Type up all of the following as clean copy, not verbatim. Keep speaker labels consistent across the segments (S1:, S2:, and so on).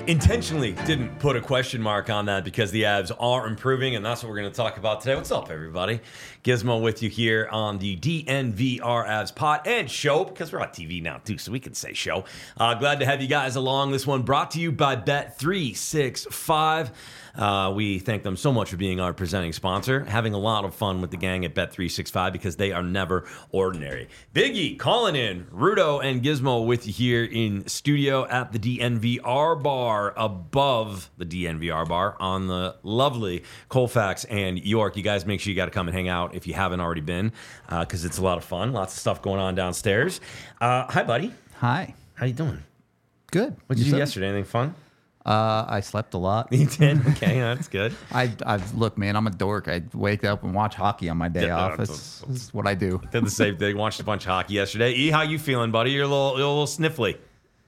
S1: intentionally didn't put a question mark on that because the Avs are improving, and that's what we're going to talk about today. What's up, everybody? Gizmo with you here on the DNVR Avs pod and show, because we're on TV now, too, so we can say show. Glad to have you guys along. This one brought to you by Bet365. We thank them so much for being our presenting sponsor. Having a lot of fun with the gang at Bet365 because they are never ordinary. Biggie calling in, Rudo and Gizmo with you here in studio at the DNVR bar, above the DNVR bar on the lovely Colfax and York. You guys make sure you got to come and hang out if you haven't already been, because it's a lot of fun. Lots of stuff going on downstairs. Hi, buddy.
S2: Hi.
S1: How you doing?
S2: Good.
S1: What did you do yesterday? Anything fun?
S2: I slept a lot.
S1: You did? Okay, that's good.
S2: Look, man, I'm a dork. I wake up and watch hockey on my day off. That's what I do.
S1: Did the same thing. Watched a bunch of hockey yesterday. E, how you feeling, buddy? You're a little sniffly.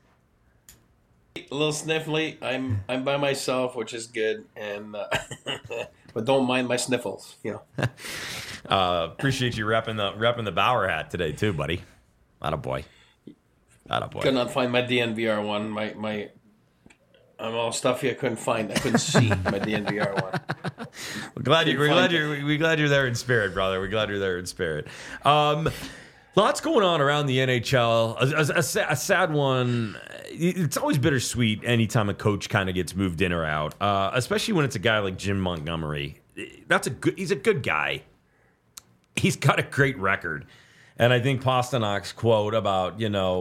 S3: A little sniffly. I'm by myself, which is good, and but don't mind my sniffles. You know.
S1: Appreciate you repping the Bauer hat today too, buddy. Attaboy.
S3: Could not find my DNVR one. My I'm all stuffy. I couldn't find. I couldn't see my DNVR one.
S1: We're glad you're there in spirit, brother. We're glad you're there in spirit. Lots going on around the NHL. A sad one. It's always bittersweet anytime a coach kind of gets moved in or out, especially when it's a guy like Jim Montgomery. He's a good guy. He's got a great record. And I think Pasternak's quote about,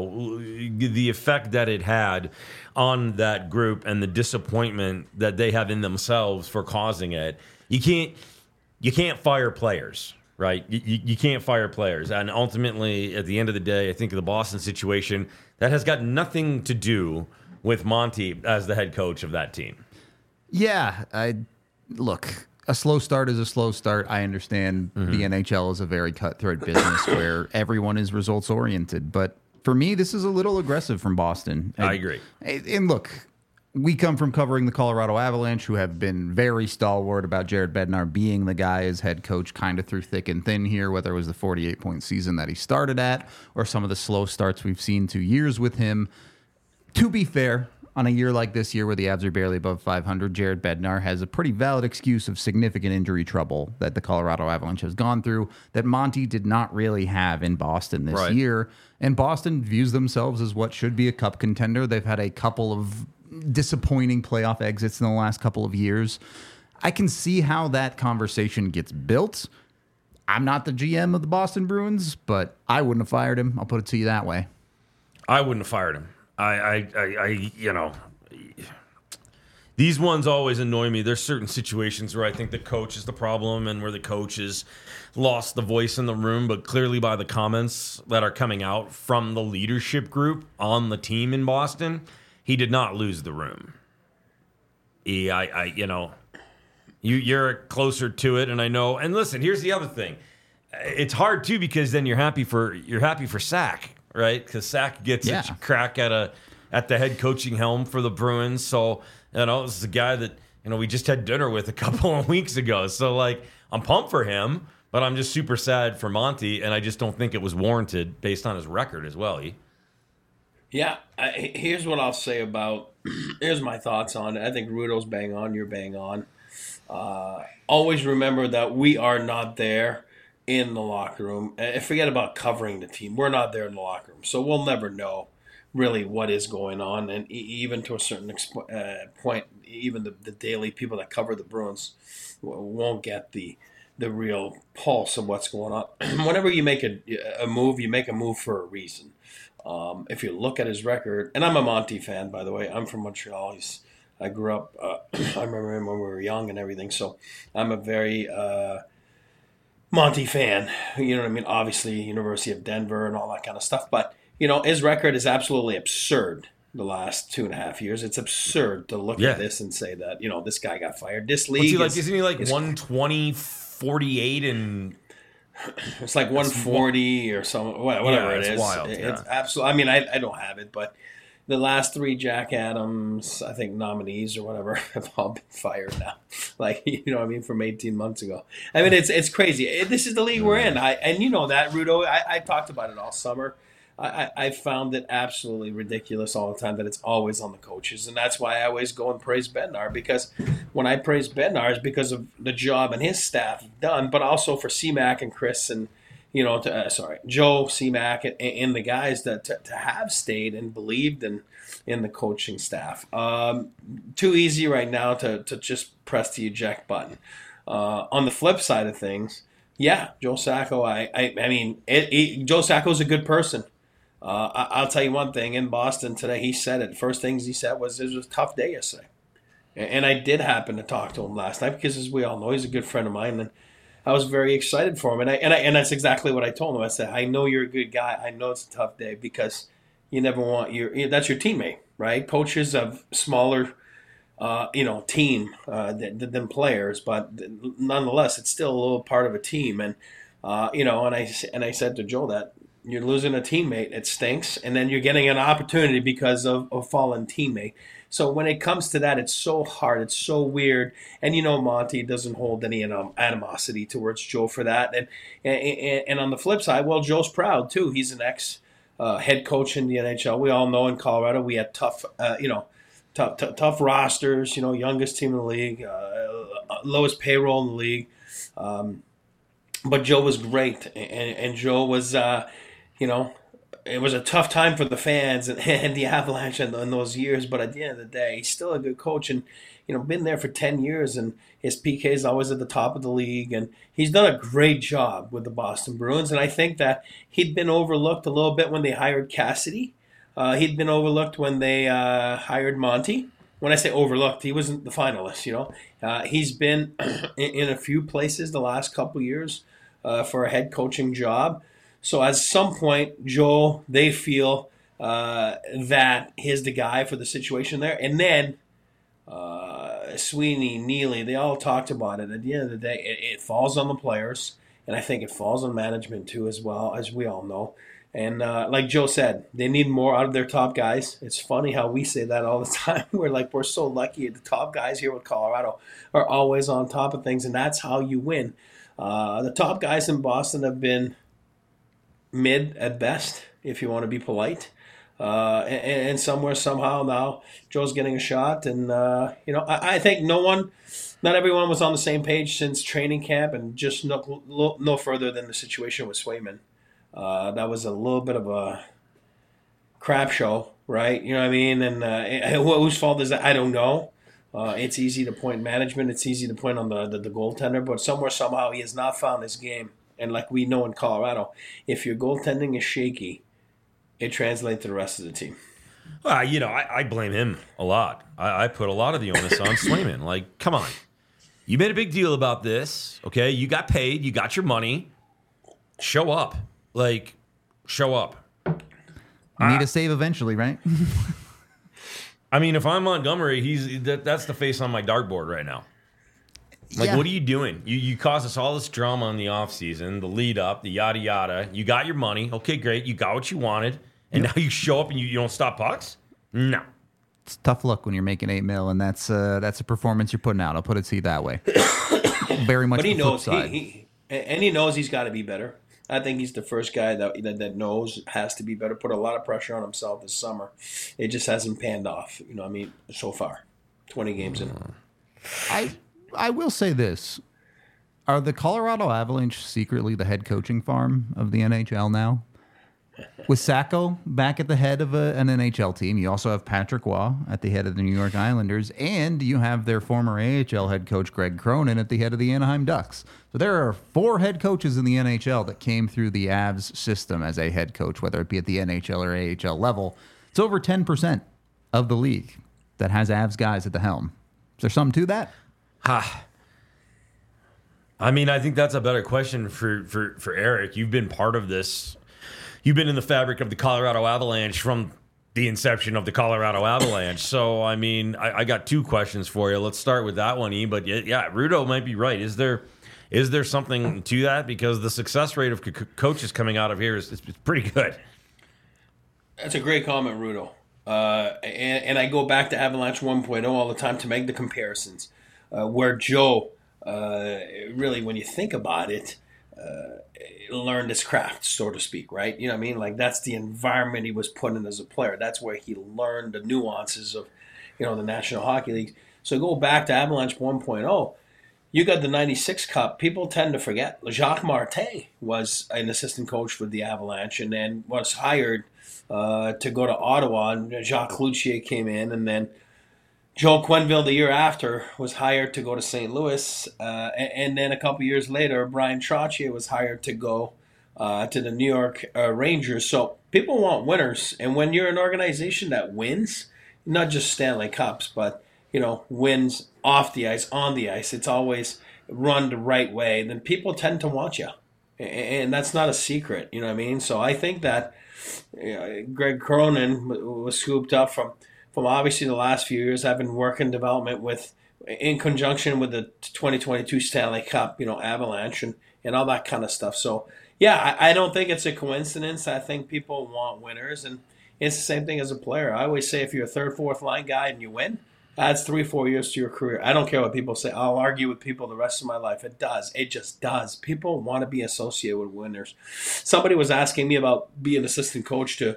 S1: the effect that it had on that group and the disappointment that they have in themselves for causing it. You can't fire players, right? You can't fire players. And ultimately, at the end of the day, I think the Boston situation, that has got nothing to do with Monty as the head coach of that team.
S2: Yeah, look. A slow start is a slow start. I understand the NHL is a very cutthroat business where everyone is results oriented. But for me, this is a little aggressive from Boston.
S1: I agree.
S2: And look, we come from covering the Colorado Avalanche, who have been very stalwart about Jared Bednar being the guy as head coach kind of through thick and thin here, whether it was the 48-point season that he started at or some of the slow starts we've seen 2 years with him. To be fair, on a year like this year where the Avs are barely above 500, Jared Bednar has a pretty valid excuse of significant injury trouble that the Colorado Avalanche has gone through that Monty did not really have in Boston this year. And Boston views themselves as what should be a cup contender. They've had a couple of disappointing playoff exits in the last couple of years. I can see how that conversation gets built. I'm not the GM of the Boston Bruins, but I wouldn't have fired him. I'll put it to you that way.
S1: I wouldn't have fired him. These ones always annoy me. There's certain situations where I think the coach is the problem and where the coach has lost the voice in the room, but clearly by the comments that are coming out from the leadership group on the team in Boston, he did not lose the room. You're closer to it, and I know. And listen, here's the other thing. It's hard too because then you're happy for Sack. Right, because Sack gets a crack at the head coaching helm for the Bruins. So this is a guy that we just had dinner with a couple of weeks ago. So I'm pumped for him, but I'm just super sad for Monty, and I just don't think it was warranted based on his record as well.
S3: Yeah, here's what I'll say about. Here's my thoughts on it. I think Rudo's bang on. You're bang on. Always remember that we are not there in the locker room. Forget about covering the team. We're not there in the locker room. So we'll never know really what is going on. And even to a certain point, even the daily people that cover the Bruins won't get the real pulse of what's going on. Whenever you make a move, you make a move for a reason. If you look at his record, and I'm a Monty fan, by the way. I'm from Montreal. I grew up, I remember him when we were young and everything. So I'm a very Monty fan, you know what I mean? Obviously, University of Denver and all that kind of stuff. But, his record is absolutely absurd the last 2.5 years. It's absurd to look at this and say that, this guy got fired. This league
S1: isn't he 120, 48, and...
S3: It's like 140 or something, whatever it is.
S1: It's wild.
S3: It's absolutely... I mean, I don't have it, but... The last 3 Jack Adams, I think, nominees or whatever have all been fired now. From 18 months ago. It's crazy. This is the league we're in. And you know that, Rudo. I talked about it all summer. I found it absolutely ridiculous all the time that it's always on the coaches. And that's why I always go and praise Bednar, because when I praise Bednar, it's because of the job and his staff have done, but also for C-Mac and Chris and, Joe, C-Mac, and the guys that to have stayed and believed in the coaching staff. Too easy right now to just press the eject button. On the flip side of things, yeah, Joe Sacco, Joe Sacco's a good person. I'll tell you one thing. In Boston today, he said it. First things he said was, it was a tough day yesterday. And I did happen to talk to him last night because, as we all know, he's a good friend of mine. And I was very excited for him. And that's exactly what I told him. I said, I know you're a good guy. I know it's a tough day because you never want that's your teammate, right? Coaches of smaller team than players, but nonetheless, it's still a little part of a team. And and I said to Joe that you're losing a teammate, it stinks, and then you're getting an opportunity because of a fallen teammate. So when it comes to that, it's so hard, it's so weird, and Monty doesn't hold any animosity towards Joe for that. And on the flip side, well, Joe's proud too. He's an ex head coach in the NHL. We all know in Colorado we had tough rosters, youngest team in the league, lowest payroll in the league. But Joe was great, and Joe was, it was a tough time for the fans and the Avalanche in those years. But at the end of the day, he's still a good coach, and been there for 10 years, and his PK is always at the top of the league, and he's done a great job with the Boston Bruins. And I think that he'd been overlooked a little bit when they hired Cassidy. He'd been overlooked when they hired Monty. When I say overlooked, he wasn't the finalist, He's been in a few places the last couple years for a head coaching job. So at some point, Joe, they feel that he's the guy for the situation there. And then Sweeney, Neely, they all talked about it. At the end of the day, it falls on the players, and I think it falls on management too, as well, as we all know. And like Joe said, they need more out of their top guys. It's funny how we say that all the time. We're so lucky. The top guys here with Colorado are always on top of things, and that's how you win. The top guys in Boston have been mid at best, if you want to be polite. And somewhere, somehow now, Joe's getting a shot. And, I think not everyone was on the same page since training camp, and just no further than the situation with Swayman. That was a little bit of a crap show, right? You know what I mean? And whose fault is that? I don't know. It's easy to point management. It's easy to point on the goaltender. But somewhere, somehow, he has not found his game. And like we know in Colorado, if your goaltending is shaky, it translates to the rest of the team.
S1: Well, I blame him a lot. I put a lot of the onus on Swayman. Like, come on. You made a big deal about this, okay? You got paid. You got your money. Show up. Like, show up.
S2: Need a save eventually, right?
S1: I mean, if I'm Montgomery, that's the face on my dartboard right now. Like, What are you doing? You caused us all this drama in the offseason, the lead up, the yada yada. You got your money. Okay, great. You got what you wanted. And now you show up and you don't stop pucks? No.
S2: It's tough luck when you're making $8 million, and that's a performance you're putting out. I'll put it to you that way. Very much. But he
S3: knows he knows he's got to be better. I think he's the first guy that knows has to be better. Put a lot of pressure on himself this summer. It just hasn't panned off. So far, 20 games in.
S2: I will say this: are the Colorado Avalanche secretly the head coaching farm of the NHL now? With Sacco back at the head of an NHL team, you also have Patrick Waugh at the head of the New York Islanders, and you have their former AHL head coach Greg Cronin at the head of the Anaheim Ducks. So there are 4 head coaches in the NHL that came through the Avs system as a head coach, whether it be at the NHL or AHL level. It's over 10% of the league that has Avs guys at the helm. Is there something to that?
S1: I mean, I think that's a better question for Eric. You've been part of this. You've been in the fabric of the Colorado Avalanche from the inception of the Colorado Avalanche. So, I mean, I got 2 questions for you. Let's start with that one, E. But yeah, Rudo might be right. Is there something to that? Because the success rate of coaches coming out of here is pretty good.
S3: That's a great comment, Rudo. And I go back to Avalanche 1.0 all the time to make the comparisons. Where Joe, really, when you think about it, learned his craft, so to speak, right? You know what I mean? Like that's the environment he was put in as a player. That's where he learned the nuances of, the National Hockey League. So go back to Avalanche 1.0. You got the 96 Cup. People tend to forget. Jacques Martin was an assistant coach for the Avalanche and then was hired to go to Ottawa. And Jacques Cloutier came in, and then Joe Quenneville the year after was hired to go to St. Louis. And then a couple years later, Brian Trottier was hired to go to the New York Rangers. So people want winners. And when you're an organization that wins, not just Stanley Cups, but wins off the ice, on the ice, it's always run the right way, then people tend to want you. And that's not a secret, you know what I mean? So I think that Greg Cronin was scooped up from obviously the last few years. I've been working development in conjunction with the 2022 Stanley Cup, Avalanche and all that kind of stuff. So, yeah, I don't think it's a coincidence. I think people want winners, and it's the same thing as a player. I always say if you're a third, fourth line guy and you win, adds 3-4 years to your career. I don't care what people say. I'll argue with people the rest of my life. It does. It just does. People want to be associated with winners. Somebody was asking me about being an assistant coach to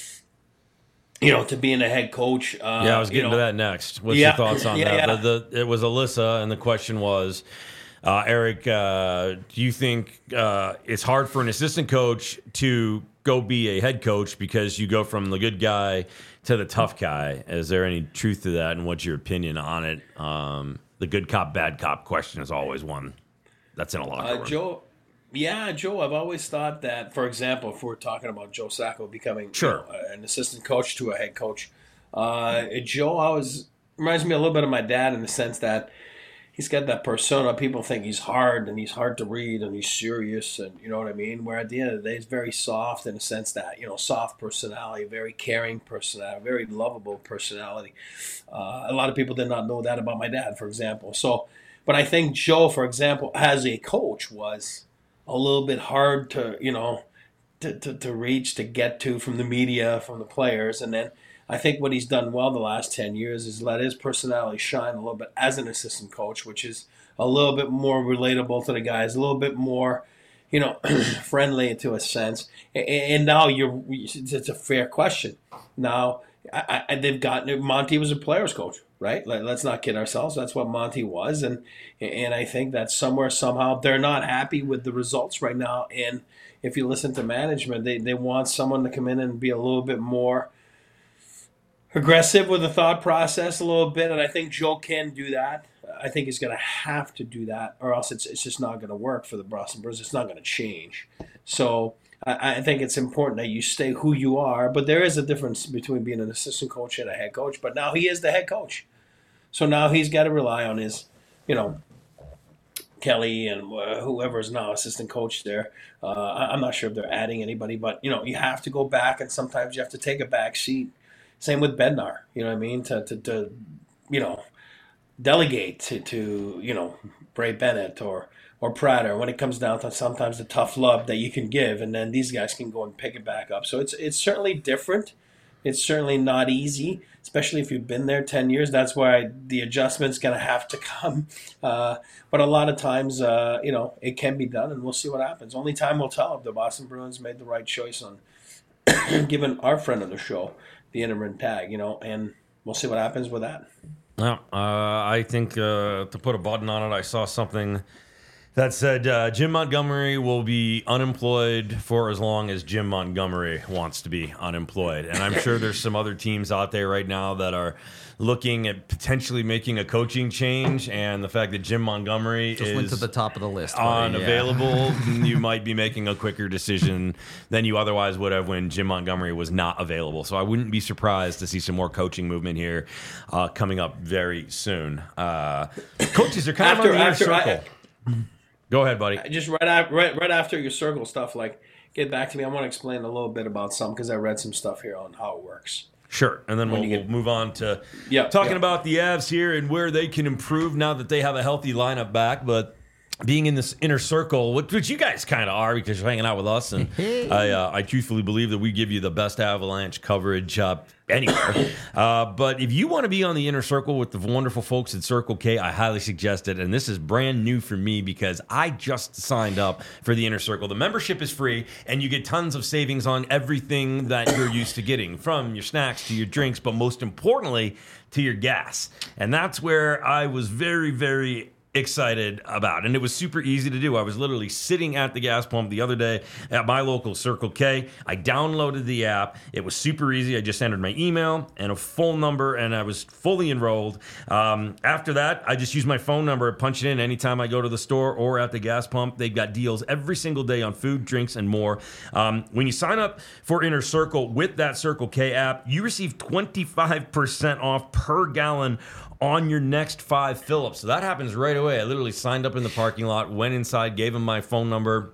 S3: being a head coach.
S1: I was getting to that next. What's your thoughts on that? Yeah. It was Alyssa, and the question was, Eric, do you think it's hard for an assistant coach to go be a head coach because you go from the good guy to the tough guy? Is there any truth to that, and what's your opinion on it? The good cop, bad cop question is always one that's in a locker room.
S3: Joe, I've always thought that, for example, if we're talking about Joe Sacco becoming an assistant coach to a head coach, Joe always reminds me a little bit of my dad in the sense that he's got that persona. People think he's hard and he's hard to read and he's serious, and you know what I mean? Where at the end of the day, he's very soft in the sense that, soft personality, very caring personality, very lovable personality. A lot of people did not know that about my dad, for example. So, but I think Joe, for example, as a coach was a little bit hard to, to reach, to get to from the media, from the players. And then I think what he's done well the last 10 years is let his personality shine a little bit as an assistant coach, which is a little bit more relatable to the guys, a little bit more, friendly to a sense. And now it's a fair question. Now, they've gotten, Monty was a player's coach, right? Let's not kid ourselves. That's what Monty was. And I think that somewhere, somehow, they're not happy with the results right now. And if you listen to management, they want someone to come in and be a little bit more aggressive with the thought process a little bit. And I think Joe can do that. I think he's going to have to do that, or else it's just not going to work for the Boston Bruins. It's not going to change. So I think it's important that you stay who you are, but there is a difference between being an assistant coach and a head coach. But now he is the head coach. So now he's got to rely on his, Kelly and whoever is now assistant coach there. I'm not sure if they're adding anybody, but, you have to go back, and sometimes you have to take a back seat. Same with Bednar, you know what I mean? To delegate to Bray Bennett or Prater when it comes down to sometimes the tough love that you can give, and then these guys can go and pick it back up. So it's certainly different. It's certainly not easy, especially if you've been there 10 years. That's why the adjustment's going to have to come. But a lot of times, it can be done, and we'll see what happens. Only time will tell if the Boston Bruins made the right choice on giving our friend of the show the interim tag, and we'll see what happens with that.
S1: Well, I think to put a button on it, I saw something that said Jim Montgomery will be unemployed for as long as Jim Montgomery wants to be unemployed. And I'm sure there's some other teams out there right now that are looking at potentially making a coaching change, and the fact that Jim Montgomery
S2: just went to the top of the list.
S1: Unavailable, you might be making a quicker decision than you otherwise would have when Jim Montgomery was not available. So I wouldn't be surprised to see some more coaching movement here coming up very soon. Coaches are kind of on the inner circle. Go ahead, buddy.
S3: Just right after your circle stuff, get back to me. I want to explain a little bit about some, because I read some stuff here on how it works.
S1: Sure, and then we'll move on to talking about the Avs here and where they can improve now that they have a healthy lineup back. But being in this inner circle, which you guys kind of are because you're hanging out with us, and I truthfully believe that we give you the best Avalanche coverage anywhere. But if you want to be on the inner circle with the wonderful folks at Circle K, I highly suggest it. And this is brand new for me because I just signed up for the inner circle. The membership is free, and you get tons of savings on everything that you're used to getting, from your snacks to your drinks, but most importantly, to your gas. And that's where I was very, very excited about, and it was super easy to do. I was literally sitting at the gas pump the other day at my local Circle K. I downloaded the app. It was super easy. I just entered my email and a phone number, and I was fully enrolled. After that, I just use my phone number, punch it in anytime I go to the store or at the gas pump. They've got deals every single day on food, drinks, and more. When you sign up for Inner Circle with that Circle K app, you receive 25% off per gallon on your next 5 fill-ups. So that happens right away. I literally signed up in the parking lot, went inside, gave him my phone number,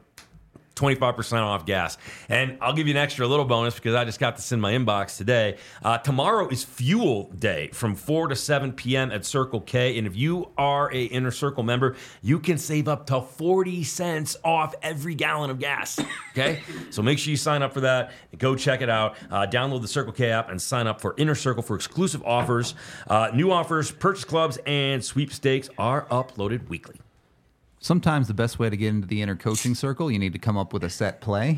S1: 25% off gas. And I'll give you an extra little bonus because I just got this in my inbox today. Tomorrow is fuel day from 4 to 7 p.m. at Circle K. And if you are a Inner Circle member, you can save up to 40 cents off every gallon of gas. Okay? So make sure you sign up for that. Go check it out. Download the Circle K app and sign up for Inner Circle for exclusive offers. New offers, purchase clubs, and sweepstakes are uploaded weekly.
S2: Sometimes the best way to get into the inner coaching circle, you need to come up with a set play.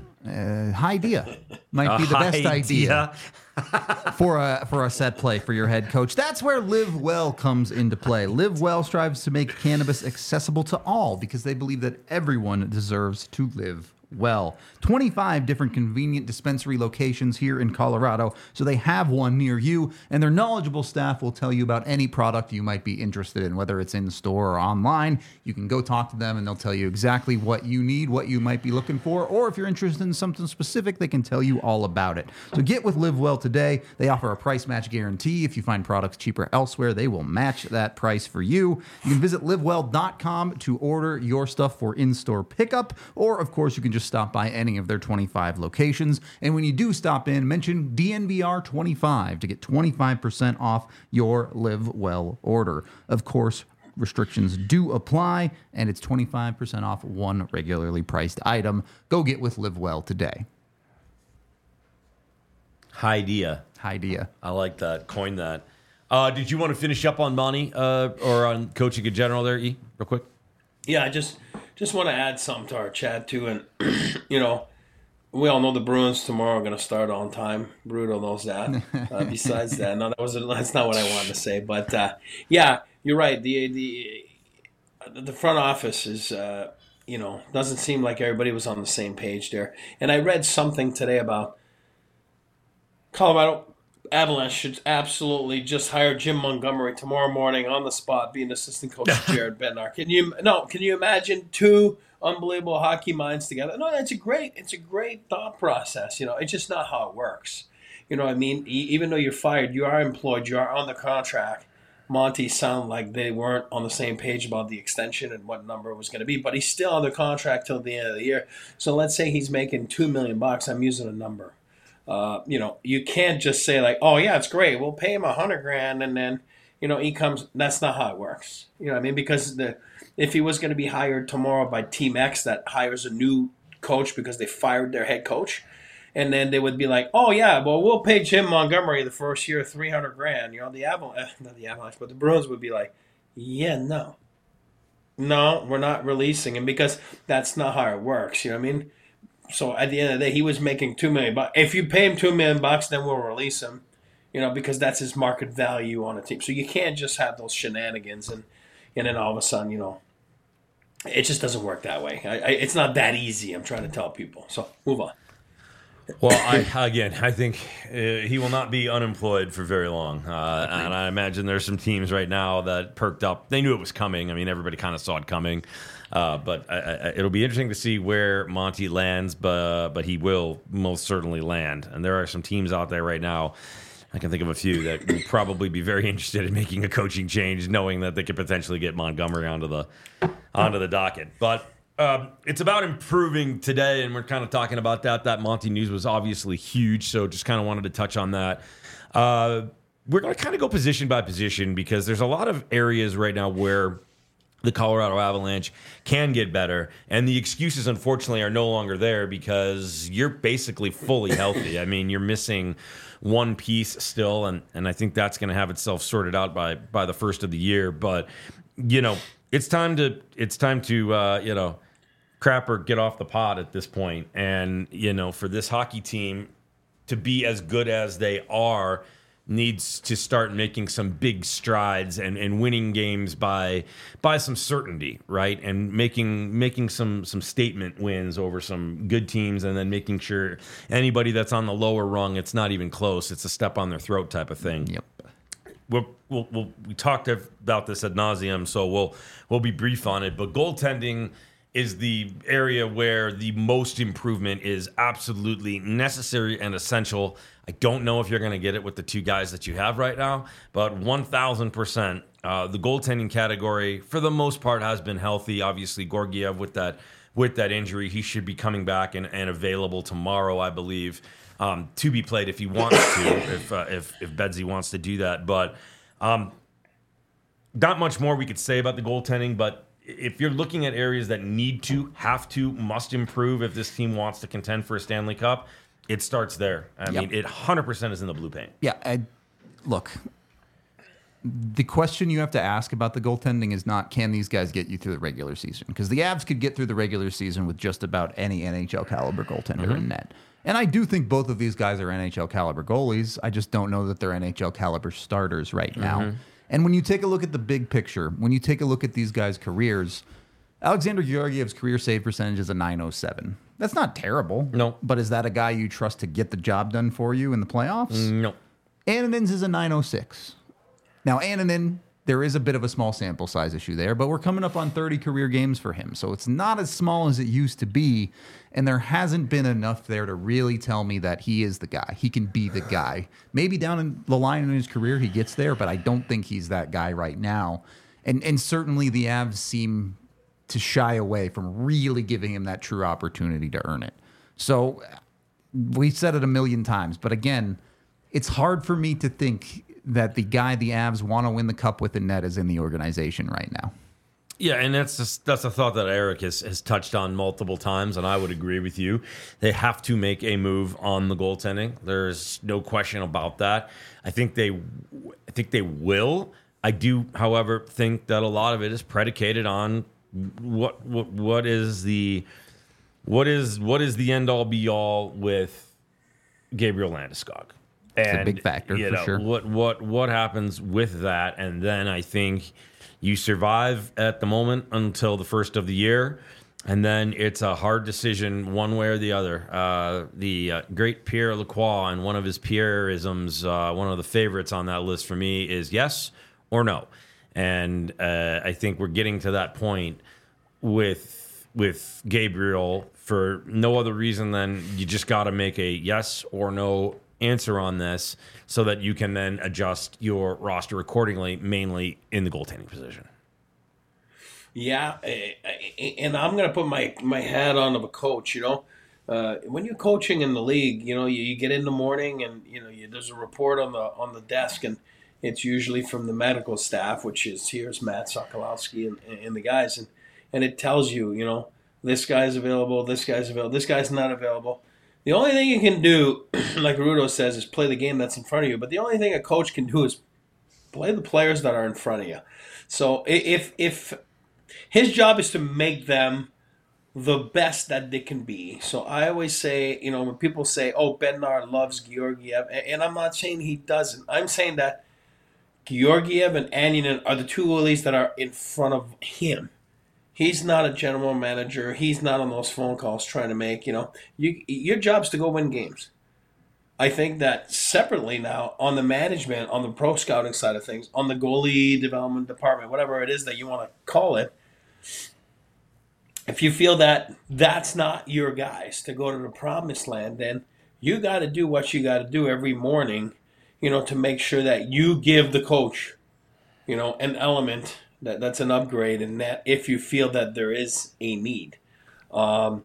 S2: High idea might be the best idea for a set play for your head coach. That's where Live Well comes into play. Live Well strives to make cannabis accessible to all because they believe that everyone deserves to live well. 25 different convenient dispensary locations here in Colorado, so they have one near you, and their knowledgeable staff will tell you about any product you might be interested in, whether it's in store or online. You can go talk to them and they'll tell you exactly what you need, what you might be looking for, or if you're interested in something specific, they can tell you all about it. So get with Live Well today. They offer a price match guarantee. If you find products cheaper elsewhere, they will match that price for you. You can visit livewell.com to order your stuff for in-store pickup, or of course you can just stop by any of their 25 locations. And when you do stop in, mention DNVR25 to get 25% off your Live Well order. Of course, restrictions do apply, and it's 25% off one regularly priced item. Go get with Live Well today.
S1: Idea. I like that. Coin that. Did you want to finish up on Monty or on coaching in general there, E, real quick?
S3: Yeah, I just want to add something to our chat too, and we all know the Bruins tomorrow are going to start on time. Brutal knows that. Besides that, no, that's not what I wanted to say. But yeah, you're right. The front office is doesn't seem like everybody was on the same page there. And I read something today about Colorado Avalanche should absolutely just hire Jim Montgomery tomorrow morning on the spot, being assistant coach to Jared Bednar. Can you imagine two unbelievable hockey minds together? No, it's a great thought process. It's just not how it works. You know what I mean? Even though you're fired, you are employed, you are on the contract. Monty sounded like they weren't on the same page about the extension and what number it was going to be, but he's still on the contract till the end of the year. So let's say he's making $2 million. I'm using a number. You can't just say like, oh yeah, it's great, we'll pay him $100,000 and then, he comes. That's not how it works. You know what I mean? Because if he was going to be hired tomorrow by Team X that hires a new coach because they fired their head coach, and then they would be like, oh yeah, well we'll pay Jim Montgomery the first year $300,000. Not the Avalanche, but the Bruins would be like, yeah, no, we're not releasing him because that's not how it works. You know what I mean? So at the end of the day, he was making $2 million. If you pay him $2 million, then we'll release him, because that's his market value on a team. So you can't just have those shenanigans and then all of a sudden, it just doesn't work that way. It's not that easy. I'm trying to tell people. So move on.
S1: Well, I think he will not be unemployed for very long. And I imagine there's some teams right now that perked up. They knew it was coming. I mean, everybody kind of saw it coming. But it'll be interesting to see where Monty lands, but he will most certainly land. And there are some teams out there right now, I can think of a few, that will probably be very interested in making a coaching change, knowing that they could potentially get Montgomery onto the docket. But it's about improving today, and we're kind of talking about that. That Monty news was obviously huge, so just kind of wanted to touch on that. We're going to kind of go position by position because there's a lot of areas right now where the Colorado Avalanche can get better. And the excuses, unfortunately, are no longer there because you're basically fully healthy. I mean, you're missing one piece still, and I think that's going to have itself sorted out by the first of the year. But, it's time to crap or get off the pot at this point. And, for this hockey team to be as good as they are, needs to start making some big strides and winning games by some certainty, right? And making some statement wins over some good teams, and then making sure anybody that's on the lower rung, it's not even close. It's a step on their throat type of thing.
S2: Yep.
S1: We talked about this ad nauseum, so we'll be brief on it. But goaltending is the area where the most improvement is absolutely necessary and essential. I don't know if you're going to get it with the two guys that you have right now, but 1,000%. The goaltending category, for the most part, has been healthy. Obviously, Georgiev with that injury, he should be coming back and available tomorrow, I believe, to be played if he wants to, if Bedsy wants to do that. But not much more we could say about the goaltending, but if you're looking at areas that must improve if this team wants to contend for a Stanley Cup, it starts there. I mean, it 100% is in the blue paint.
S2: Yeah, look, the question you have to ask about the goaltending is not, can these guys get you through the regular season? Because the Avs could get through the regular season with just about any NHL caliber goaltender in net. And I do think both of these guys are NHL caliber goalies. I just don't know that they're NHL caliber starters right now. And when you take a look at the big picture, when you take a look at these guys' careers, Alexander Georgiev's career save percentage is a .907. That's not terrible.
S1: No.
S2: But is that a guy you trust to get the job done for you in the playoffs?
S1: No.
S2: Annunin's is a .906. Now, Annunin, there is a bit of a small sample size issue there, but we're coming up on 30 career games for him. So it's not as small as it used to be, and there hasn't been enough there to really tell me that he is the guy. He can be the guy. Maybe down in the line in his career he gets there, but I don't think he's that guy right now. And certainly the Avs seem to shy away from really giving him that true opportunity to earn it. So we've said it a million times, but again, it's hard for me to think that the guy the Avs want to win the cup with in net is in the organization right now.
S1: Yeah, and that's a thought that Eric has touched on multiple times, and I would agree with you. They have to make a move on the goaltending. There's no question about that. I think they will. I do, however, think that a lot of it is predicated on what is the end all be all with Gabriel Landeskog.
S2: It's a big factor, for sure.
S1: What happens with that, and then I think you survive at the moment until the first of the year, and then it's a hard decision one way or the other. The great Pierre Lacroix, and one of his Pierre-isms, one of the favorites on that list for me is yes or no. And I think we're getting to that point with Gabriel for no other reason than you just got to make a yes or no answer on this so that you can then adjust your roster accordingly, mainly in the goaltending position.
S3: Yeah, and I'm going to put my hat on of a coach, when you're coaching in the league, you get in the morning and, there's a report on the desk, and it's usually from the medical staff, which is here's Matt Sokolowski and the guys, and it tells you, this guy's available, this guy's available, this guy's not available. The only thing you can do, like Rudo says, is play the game that's in front of you. But the only thing a coach can do is play the players that are in front of you. So if his job is to make them the best that they can be. So I always say, when people say, oh, Bednar loves Georgiev, and I'm not saying he doesn't. I'm saying that Georgiev and Annunin are the two goalies that are in front of him. He's not a general manager. He's not on those phone calls trying to make, your job's to go win games. I think that separately now on the management, on the pro scouting side of things, on the goalie development department, whatever it is that you want to call it, if you feel that that's not your guys to go to the promised land, then you got to do what you got to do every morning, to make sure that you give the coach, an element that's an upgrade in that if you feel that there is a need. Do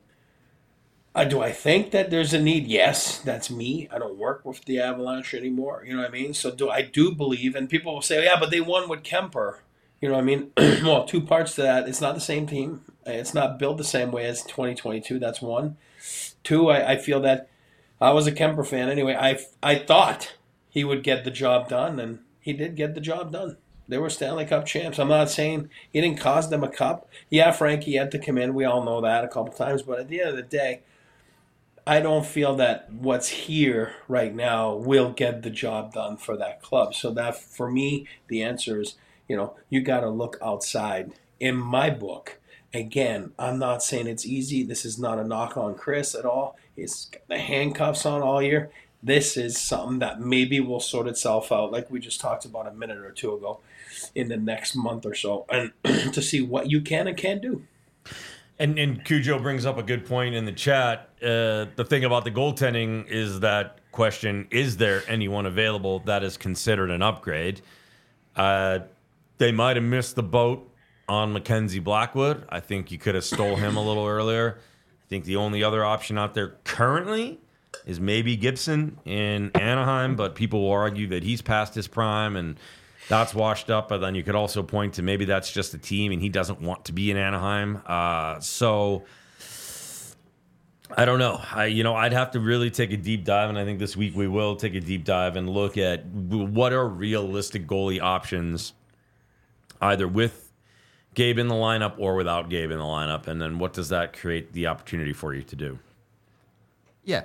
S3: I think that there's a need? Yes, that's me. I don't work with the Avalanche anymore. You know what I mean? So I do believe, and people will say, yeah, but they won with Kemper. You know what I mean? Well, two parts to that. It's not the same team. It's not built the same way as 2022. That's one. Two, I feel that I was a Kemper fan anyway. I thought he would get the job done, and he did get the job done. They were Stanley Cup champs. I'm not saying he didn't cost them a cup. Yeah, Frankie had to come in. We all know that a couple times. But at the end of the day, I don't feel that what's here right now will get the job done for that club. So that, for me, the answer is, you got to look outside. In my book, again, I'm not saying it's easy. This is not a knock on Chris at all. He's got the handcuffs on all year. This is something that maybe will sort itself out, like we just talked about a minute or two ago, in the next month or so, and to see what you can and can't do.
S1: And Cujo brings up a good point in the chat. The thing about the goaltending is that question, is there anyone available that is considered an upgrade? They might have missed the boat on Mackenzie Blackwood. I think you could have stole him a little earlier. I think the only other option out there currently is maybe Gibson in Anaheim, but people will argue that he's past his prime and that's washed up. But then you could also point to maybe that's just a team and he doesn't want to be in Anaheim. So I don't know. I'd have to really take a deep dive, and I think this week we will take a deep dive and look at what are realistic goalie options, either with Gabe in the lineup or without Gabe in the lineup, and then what does that create the opportunity for you to do?
S2: Yeah.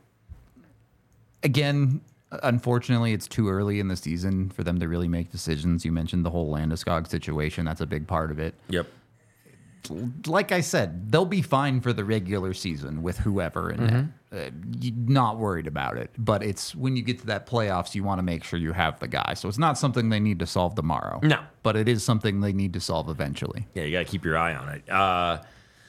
S2: Again, unfortunately, it's too early in the season for them to really make decisions. You mentioned the whole Landeskog situation. That's a big part of it.
S1: Yep.
S2: Like I said, they'll be fine for the regular season with whoever in it. Not worried about it. But it's when you get to that playoffs, you want to make sure you have the guy. So it's not something they need to solve tomorrow.
S1: No.
S2: But it is something they need to solve eventually.
S1: Yeah, you got to keep your eye on it.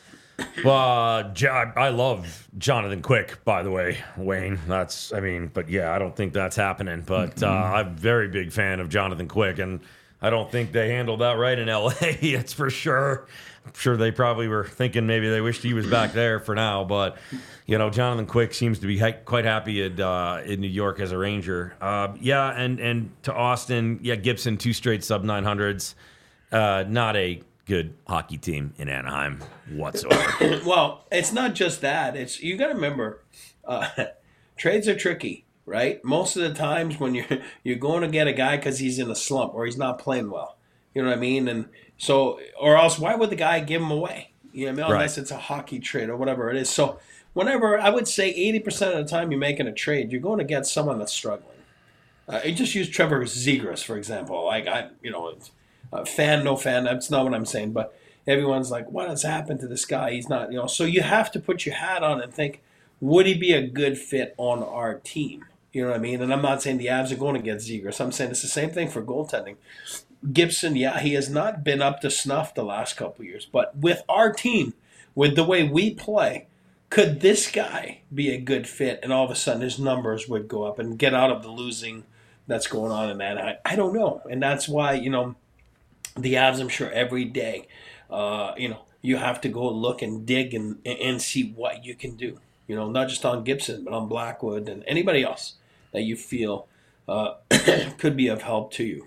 S1: I love Jonathan Quick, by the way, Wayne. But yeah, I don't think that's happening. But I'm a very big fan of Jonathan Quick, and I don't think they handled that right in LA. It's for sure. I'm sure they probably were thinking maybe they wished he was back there for now. But, Jonathan Quick seems to be quite happy in New York as a Ranger. And to Austin, Gibson, 2 straight sub-900s. Not a good hockey team in Anaheim whatsoever.
S3: Well, it's not just that. You got to remember, trades are tricky, right? Most of the times when you're going to get a guy because he's in a slump or he's not playing well, you know what I mean? And so, or else, why would the guy give him away? You know what I mean? Unless it's a hockey trade or whatever it is. So, whenever I would say 80% of the time you're making a trade, you're going to get someone that's struggling. You just use Trevor Zegras, for example. Fan, no fan, that's not what I'm saying. But everyone's like, what has happened to this guy? He's not, So you have to put your hat on and think, would he be a good fit on our team? You know what I mean? And I'm not saying the Avs are going to get Zegras. I'm saying it's the same thing for goaltending. Gibson, he has not been up to snuff the last couple of years. But with our team, with the way we play, could this guy be a good fit? And all of a sudden his numbers would go up and get out of the losing that's going on in Anaheim. I don't know. And that's why, the Avs, I'm sure every day, you have to go look and dig and see what you can do. Not just on Gibson, but on Blackwood and anybody else that you feel could be of help to you.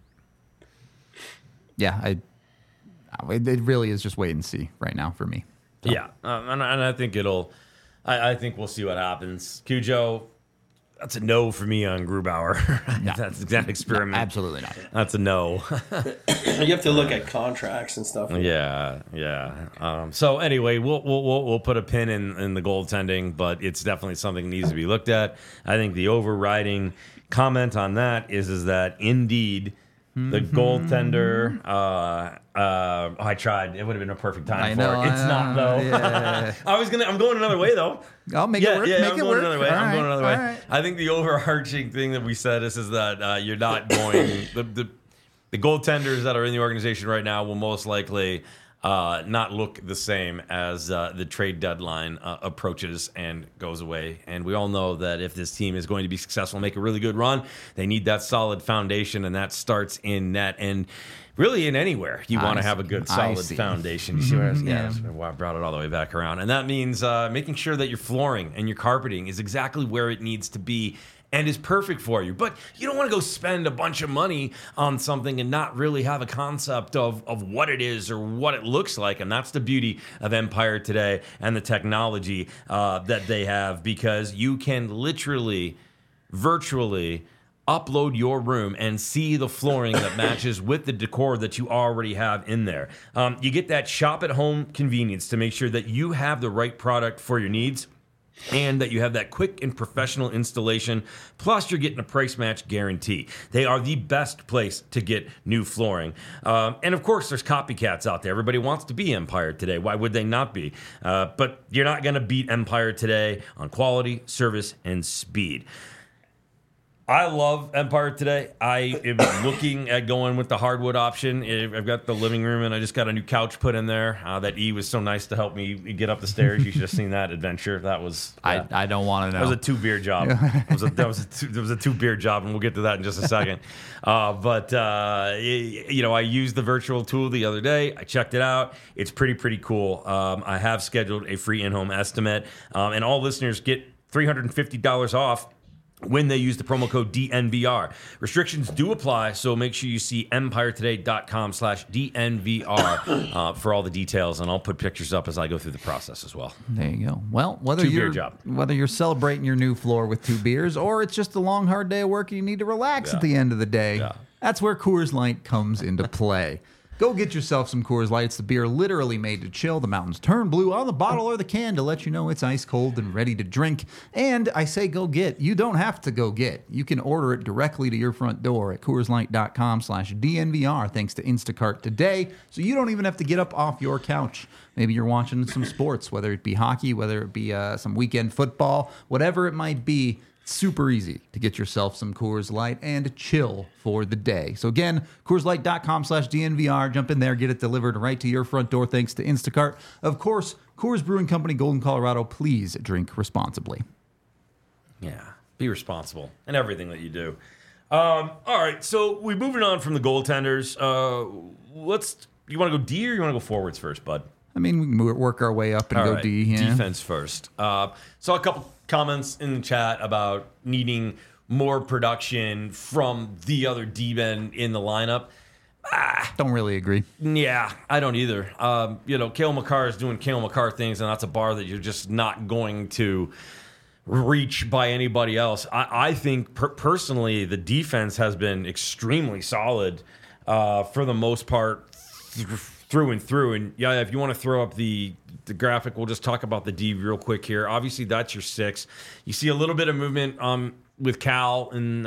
S2: Yeah, it really is just wait and see right now for me.
S1: So. Yeah, and I think I think we'll see what happens. Cujo, that's a no for me on Grubauer.
S2: No.
S1: That's that experiment.
S2: No, absolutely not.
S1: That's a no.
S3: You have to look at contracts and stuff.
S1: Yeah. So anyway, we'll put a pin in the goaltending, but it's definitely something that needs to be looked at. I think the overriding comment on that is that indeed the goaltender. I tried. It would have been a perfect time for it. It's not though. Yeah. I'm going another way though.
S2: I'll make it work.
S1: Yeah, I'm going another way.
S2: I'm
S1: going another way.
S2: Right.
S1: I think the overarching thing that we said is that you're not going the goaltenders that are in the organization right now will most likely not look the same as the trade deadline approaches and goes away. And we all know that if this team is going to be successful and make a really good run, they need that solid foundation, and that starts in net. And really in anywhere, you want to have a good, solid foundation. You see what I was, I brought it all the way back around. And that means making sure that your flooring and your carpeting is exactly where it needs to be and is perfect for you. But you don't want to go spend a bunch of money on something and not really have a concept of what it is or what it looks like. And that's the beauty of Empire Today and the technology that they have, because you can literally, virtually upload your room and see the flooring that matches with the decor that you already have in there. You get that shop at home convenience to make sure that you have the right product for your needs, and that you have that quick and professional installation. Plus, you're getting a price match guarantee. They are the best place to get new flooring. And of course, there's copycats out there. Everybody wants to be Empire Today. Why would they not be? But you're not going to beat Empire Today on quality, service, and speed. I love Empire Today. I am looking at going with the hardwood option. I've got the living room, and I just got a new couch put in there. That E was so nice to help me get up the stairs. You should have seen that adventure. That was
S2: I don't want to know.
S1: That was a 2-beer job. That was a 2-beer job, and we'll get to that in just a second. But I used the virtual tool the other day. I checked it out. It's pretty cool. I have scheduled a free in-home estimate, and all listeners get $350 off when they use the promo code DNVR. Restrictions do apply, so make sure you see empiretoday.com/DNVR for all the details, and I'll put pictures up as I go through the process as well.
S2: There you go. Well, whether
S1: 2-beer job.
S2: whether you're celebrating your new floor with 2 beers, or it's just a long, hard day of work and you need to relax at the end of the day, that's where Coors Light comes into play. Go get yourself some Coors Light. It's the beer literally made to chill. The mountains turn blue on the bottle or the can to let you know it's ice cold and ready to drink. And I say go get. You don't have to go get. You can order it directly to your front door at CoorsLight.com/DNVR thanks to Instacart today. So you don't even have to get up off your couch. Maybe you're watching some sports, whether it be hockey, whether it be some weekend football, whatever it might be. Super easy to get yourself some Coors Light and chill for the day. So again, CoorsLight.com/DNVR. Jump in there, get it delivered right to your front door thanks to Instacart. Of course, Coors Brewing Company, Golden, Colorado. Please drink responsibly.
S1: Yeah, be responsible in everything that you do. All right, so we're moving on from the goaltenders. You want to go D or you want to go forwards first, bud?
S2: I mean, we can work our way up and go D. Yeah.
S1: Defense first. Saw a couple comments in the chat about needing more production from the other D-men in the lineup.
S2: Don't really agree.
S1: Yeah, I don't either. Cale Makar is doing Cale Makar things, and that's a bar that you're just not going to reach by anybody else. I think personally the defense has been extremely solid for the most part through and through. And yeah, if you want to throw up the graphic, we'll just talk about the D real quick here. Obviously, that's your 6. You see a little bit of movement with Cal in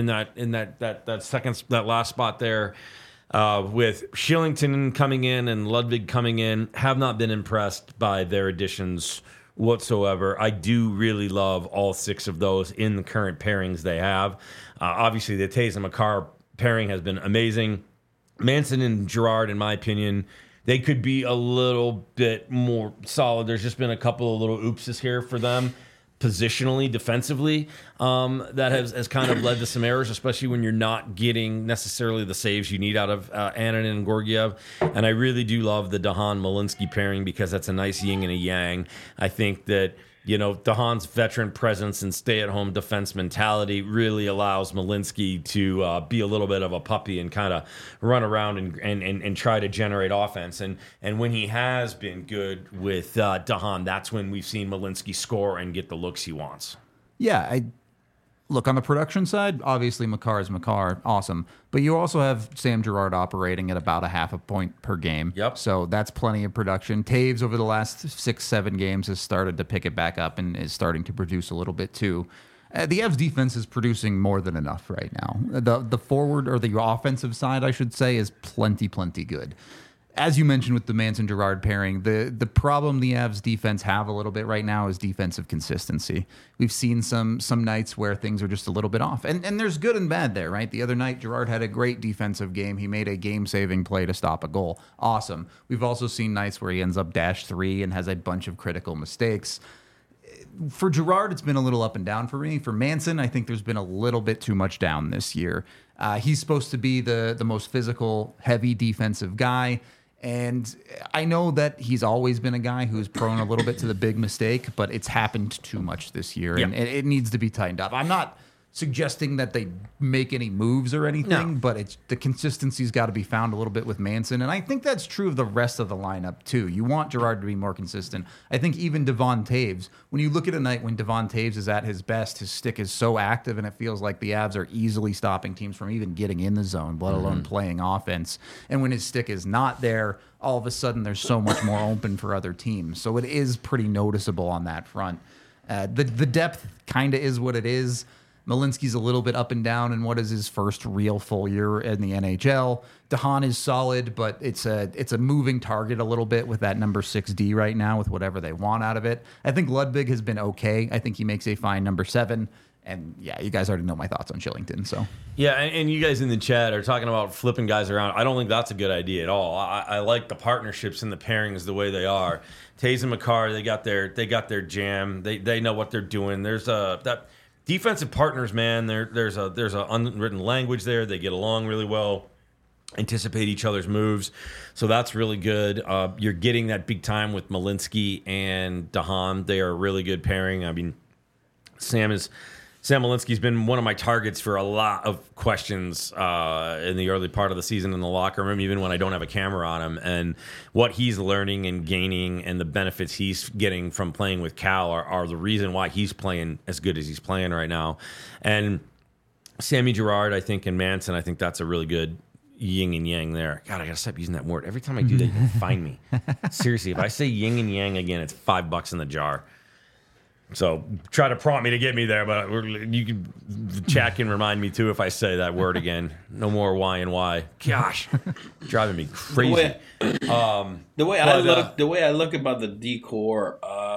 S1: that last spot there. With Shillington coming in and Ludwig coming in, have not been impressed by their additions whatsoever. I do really love all 6 of those in the current pairings they have. Obviously, the Taves and Makar pairing has been amazing. Manson and Girard, in my opinion, they could be a little bit more solid. There's just been a couple of little oopses here for them positionally, defensively, that has kind of led to some errors, especially when you're not getting necessarily the saves you need out of Annunen and Georgiev. And I really do love the Dahan-Malinsky pairing because that's a nice yin and a yang. I think that Dahan's veteran presence and stay-at-home defense mentality really allows Malinsky to be a little bit of a puppy and kind of run around and try to generate offense. And when he has been good with Dahan, that's when we've seen Malinsky score and get the looks he wants.
S2: Yeah, look, on the production side, obviously Makar is Makar, awesome. But you also have Sam Girard operating at about a half a point per game.
S1: Yep.
S2: So that's plenty of production. Taves over the last 6-7 games has started to pick it back up and is starting to produce a little bit too. The Avs defense is producing more than enough right now. The forward, or the offensive side, I should say, is plenty good. As you mentioned with the Manson-Girard pairing, the problem the Avs defense have a little bit right now is defensive consistency. We've seen some nights where things are just a little bit off. And there's good and bad there, right? The other night, Girard had a great defensive game. He made a game-saving play to stop a goal. Awesome. We've also seen nights where he ends up -3 and has a bunch of critical mistakes. For Girard, it's been a little up and down for me. For Manson, I think there's been a little bit too much down this year. He's supposed to be the most physical, heavy defensive guy. And I know that he's always been a guy who's prone a little bit to the big mistake, but it's happened too much this year, and it needs to be tightened up. I'm not suggesting that they make any moves or anything,
S1: No.
S2: but it's the consistency's got to be found a little bit with Manson, and I think that's true of the rest of the lineup too. You want Girard to be more consistent. I think even Devon Taves, when you look at a night when Devon Taves is at his best, his stick is so active, and it feels like the Avs are easily stopping teams from even getting in the zone, let alone playing offense. And when his stick is not there, all of a sudden there's so much more open for other teams. So it is pretty noticeable on that front. The depth kind of is what it is. Malinsky's a little bit up and down in what is his first real full year in the NHL. DeHaan is solid, but it's a moving target a little bit with that number 6D right now with whatever they want out of it. I think Ludwig has been okay. I think he makes a fine number 7. And yeah, you guys already know my thoughts on Shillington. So
S1: Yeah, and you guys in the chat are talking about flipping guys around. I don't think that's a good idea at all. I like the partnerships and the pairings the way they are. Taves and Makar, they got their jam. They know what they're doing. There's that defensive partners, man. There's a unwritten language there. They get along really well, anticipate each other's moves, so that's really good. You're getting that big time with Malinsky and DeHaan. They are a really good pairing. I mean, Sam Malinsky's been one of my targets for a lot of questions in the early part of the season in the locker room, even when I don't have a camera on him. And what he's learning and gaining and the benefits he's getting from playing with Cal are the reason why he's playing as good as he's playing right now. And Sammy Girard, I think, and Manson, I think that's a really good yin and yang there. God, I gotta stop using that word. Every time I do that, you can find me. Seriously, if I say yin and yang again, it's $5 in the jar. So try to prompt me to get me there, but the chat can remind me too if I say that word again. No more Y and Y. Gosh, driving me crazy.
S3: The way I look about the decor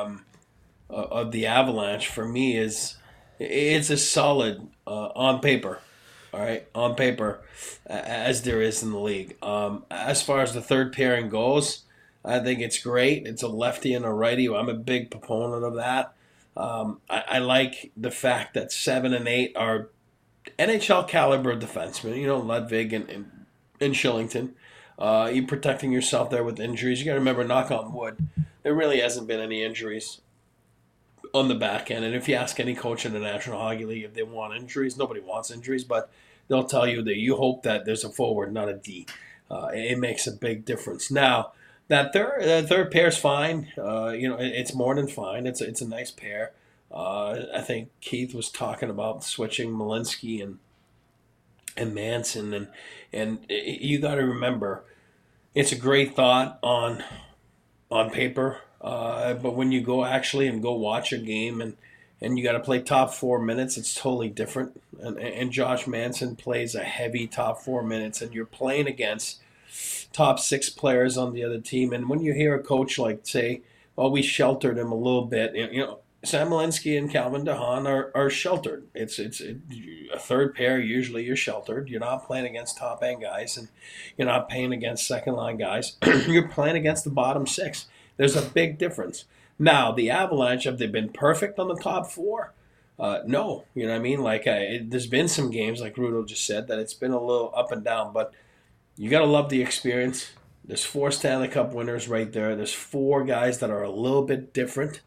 S3: of the Avalanche for me is it's a solid on paper. All right, on paper, as there is in the league. As far as the third pairing goes, I think it's great. It's a lefty and a righty. I'm a big proponent of that. I like the fact that 7 and 8 are NHL caliber defensemen. You know, Ludwig and Shillington. You're protecting yourself there with injuries. You got to remember, knock on wood, there really hasn't been any injuries on the back end. And if you ask any coach in the National Hockey League if they want injuries, nobody wants injuries, but they'll tell you that you hope that there's a forward, not a D. It makes a big difference. Now, that third pair's fine. It's more than fine. It's a nice pair. I think Keith was talking about switching Malinsky and Manson, and you got to remember, it's a great thought on paper, but when you go watch a game and you got to play top 4 minutes, it's totally different. And Josh Manson plays a heavy top 4 minutes, and you're playing against top 6 players on the other team. And when you hear a coach like say, well, we sheltered him a little bit, Sam Malinsky and Calvin DeHaan are sheltered. It's a third pair. Usually you're sheltered. You're not playing against top end guys, and you're not playing against second line guys. You're playing against the bottom 6. There's a big difference. Now, the Avalanche, have they been perfect on the top 4? No. You know what I mean? Like, there's been some games, like Rudo just said, that it's been a little up and down, but you got to love the experience. There's 4 Stanley Cup winners right there. There's 4 guys that are a little bit different.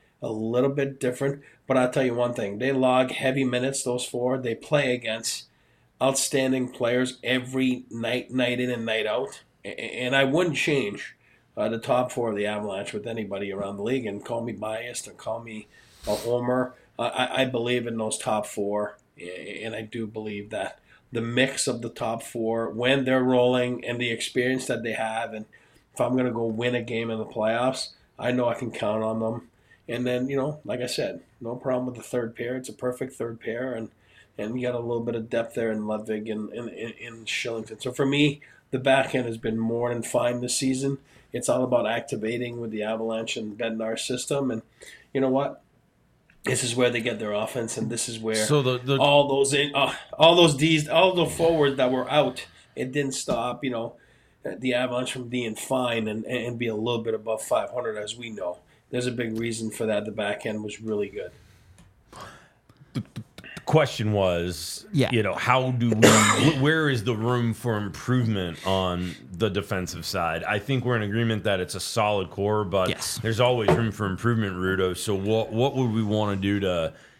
S3: But I'll tell you one thing. They log heavy minutes, those 4. They play against outstanding players every night in and night out. And I wouldn't change the top 4 of the Avalanche with anybody around the league. And call me biased or call me a homer. I believe in those top 4. And I do believe that the mix of the top 4 when they're rolling and the experience that they have, and if I'm going to go win a game in the playoffs, I know I can count on them. And then, like I said, no problem with the third pair. It's a perfect third pair, and you got a little bit of depth there in Ludwig and in Shillington. So for me, the back end has been more than fine this season. It's all about activating with the Avalanche and Bednar system, and you know what? This is where they get their offense, and this is where all those D's, all the forwards that were out, it didn't stop, the Avalanche from being fine and be a little bit above 500, as we know. There's a big reason for that. The back end was really good.
S1: The question was, how do we? Where is the room for improvement on the defensive side? I think we're in agreement that it's a solid core, but there's always room for improvement, Rudo. So what would we want to do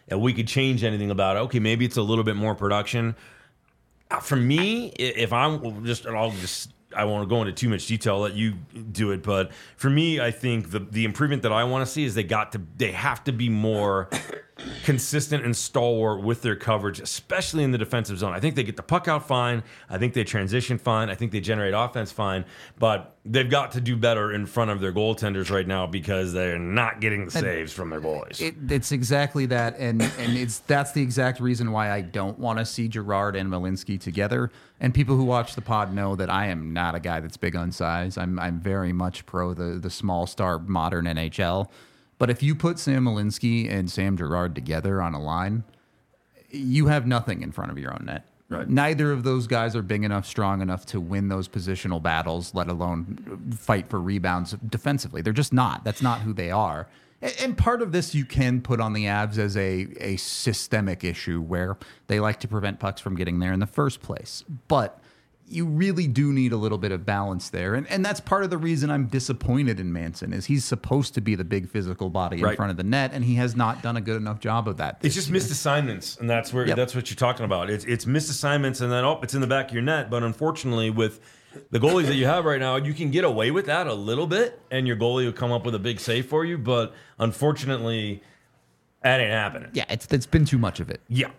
S1: and we could change anything about it. Okay, maybe it's a little bit more production. For me, if I'm just, I won't go into too much detail. I'll let you do it. But for me, I think the improvement that I want to see is they have to be more consistent and stalwart with their coverage, especially in the defensive zone. I think they get the puck out fine. I think they transition fine. I think they generate offense fine. But they've got to do better in front of their goaltenders right now because they're not getting the saves from their goalies.
S2: It's exactly that, and that's the exact reason why I don't want to see Girard and Malinsky together. And people who watch the pod know that I am not a guy that's big on size. I'm very much pro the small star modern NHL. But if you put Sam Malinsky and Sam Girard together on a line, you have nothing in front of your own net.
S1: Right.
S2: Neither of those guys are big enough, strong enough to win those positional battles, let alone fight for rebounds defensively. They're just not. That's not who they are. And part of this you can put on the Avs as a systemic issue where they like to prevent pucks from getting there in the first place. But you really do need a little bit of balance there. And that's part of the reason I'm disappointed in Manson is he's supposed to be the big physical body in front of the net, and he has not done a good enough job of that.
S1: It's just missed assignments, and that's what you're talking about. It's missed assignments, and then, it's in the back of your net. But unfortunately, with the goalies that you have right now, you can get away with that a little bit, and your goalie will come up with a big save for you. But unfortunately, that ain't happening.
S2: Yeah, it's been too much of it.
S1: Yeah.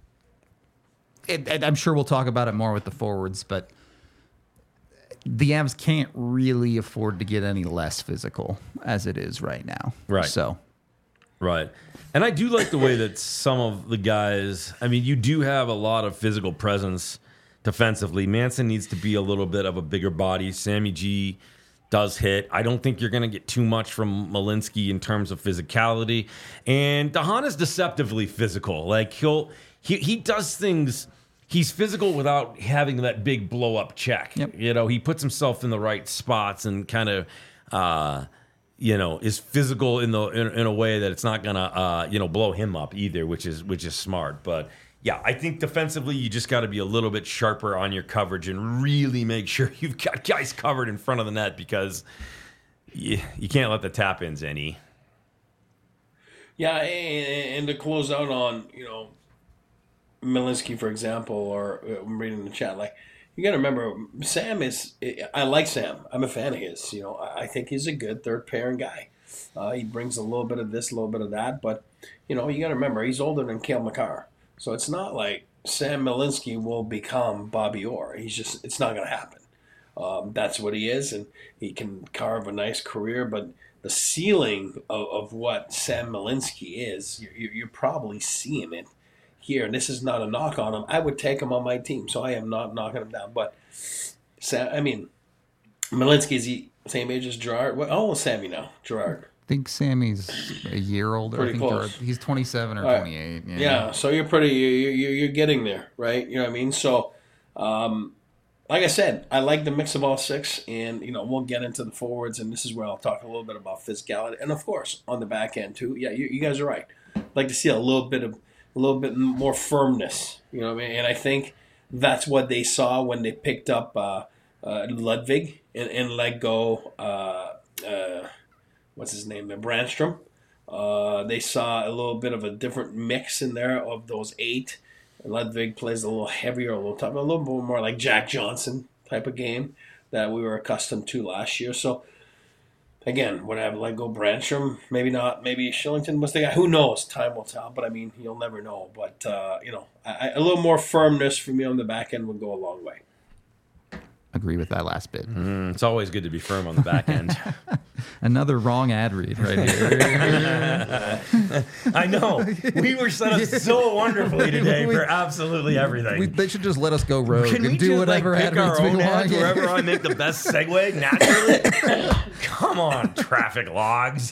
S2: I'm sure we'll talk about it more with the forwards, but the Avs can't really afford to get any less physical as it is right now.
S1: Right.
S2: So.
S1: Right. And I do like the way that some of the guys, I mean, you do have a lot of physical presence defensively. Manson needs to be a little bit of a bigger body. Sammy G does hit. I don't think you're going to get too much from Malinsky in terms of physicality. And Dahan is deceptively physical. Like he does things. He's physical without having that big blow-up check.
S2: Yep.
S1: He puts himself in the right spots and kind of, is physical in a way that it's not gonna, blow him up either, which is smart. But yeah, I think defensively you just got to be a little bit sharper on your coverage and really make sure you've got guys covered in front of the net because you can't let the tap-ins in.
S3: Yeah, and to close out on, Malinsky, for example, or I'm reading the chat, like, you got to remember, I like Sam. I'm a fan of his. I think he's a good third pairing guy. He brings a little bit of this, a little bit of that, but, you got to remember, he's older than Cale Makar. So it's not like Sam Malinsky will become Bobby Orr. It's not going to happen. That's what he is, and he can carve a nice career, but the ceiling of what Sam Malinsky is, you're probably seeing it here, and this is not a knock on him. I would take him on my team, so I am not knocking him down. But Malinsky, is he same age as Girard? How old is Sammy now? Girard.
S2: I think Sammy's a year older.
S3: Pretty
S2: I think
S3: close.
S2: He's 27 or 28.
S3: Yeah, so you're you're getting there, right? You know what I mean? So, like I said, I like the mix of all six, and we'll get into the forwards, and this is where I'll talk a little bit about physicality, and of course on the back end too. Yeah, you guys are right. I'd like to see a little bit more firmness, you know what I mean? And I think that's what they saw when they picked up Ludwig and let go, what's his name, Brandstrom. They saw a little bit of a different mix in there of those 8. Ludwig plays a little heavier, a little tougher, a little bit more like Jack Johnson type of game that we were accustomed to last year. So, again, would I have let go Brandstrom? Maybe not. Maybe Shillington was the guy. Who knows? Time will tell. But, you'll never know. But, a little more firmness for me on the back end would go a long way.
S2: Agree with that last bit.
S1: It's always good to be firm on the back end.
S2: Another wrong ad read right here.
S1: I know. We were set up so wonderfully today for absolutely everything.
S2: They should just let us go rogue
S1: Can we
S2: and do
S1: just
S2: whatever
S1: pick
S2: ad
S1: our
S2: reads we
S1: own
S2: want.
S1: ads wherever I make the best segue naturally? Come on, traffic logs.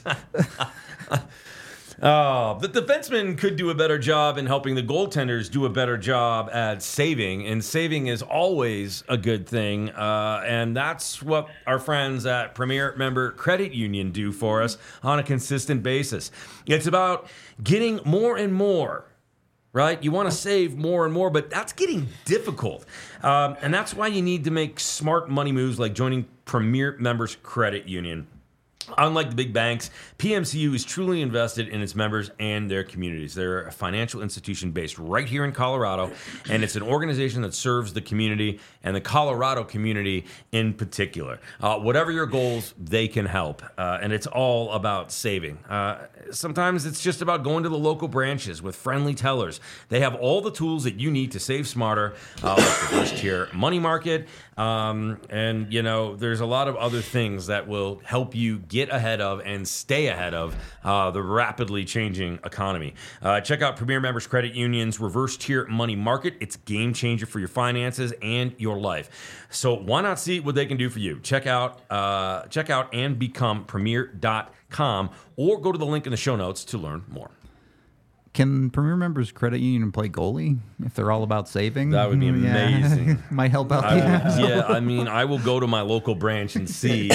S1: The defensemen could do a better job in helping the goaltenders do a better job at saving, and saving is always a good thing, and that's what our friends at Premier Member Credit Union do for us on a consistent basis. It's about getting more and more, right? You want to save more and more, but that's getting difficult, and that's why you need to make smart money moves like joining Premier Members Credit Union. Unlike the big banks, PMCU is truly invested in its members and their communities. They're a financial institution based right here in Colorado, and it's an organization that serves the community and the Colorado community in particular. Whatever your goals, they can help, and it's all about saving. Sometimes it's just about going to the local branches with friendly tellers. They have all the tools that you need to save smarter, like the first tier money market, and there's a lot of other things that will help you get ahead of and stay ahead of the rapidly changing economy. Check out Premier Members Credit Union's reverse tier money market. It's a game changer for your finances and your life. So why not see what they can do for you? Check out and become premier.com or go to the link in the show notes to learn more.
S2: Can Premier Members Credit Union play goalie if they're all about saving?
S1: That would be amazing.
S2: Yeah. Might help out.
S1: I will go to my local branch and see.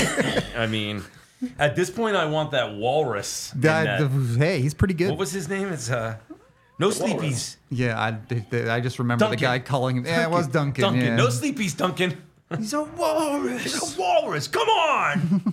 S1: At this point, I want that walrus.
S2: Hey, he's pretty good.
S1: What was his name? It's No Sleepies.
S2: Yeah, I just remember
S1: Duncan.
S2: the guy calling him. Yeah, it was Duncan.
S1: Duncan.
S2: Yeah.
S1: No Sleepies, Duncan. He's a walrus. He's a walrus. Come on.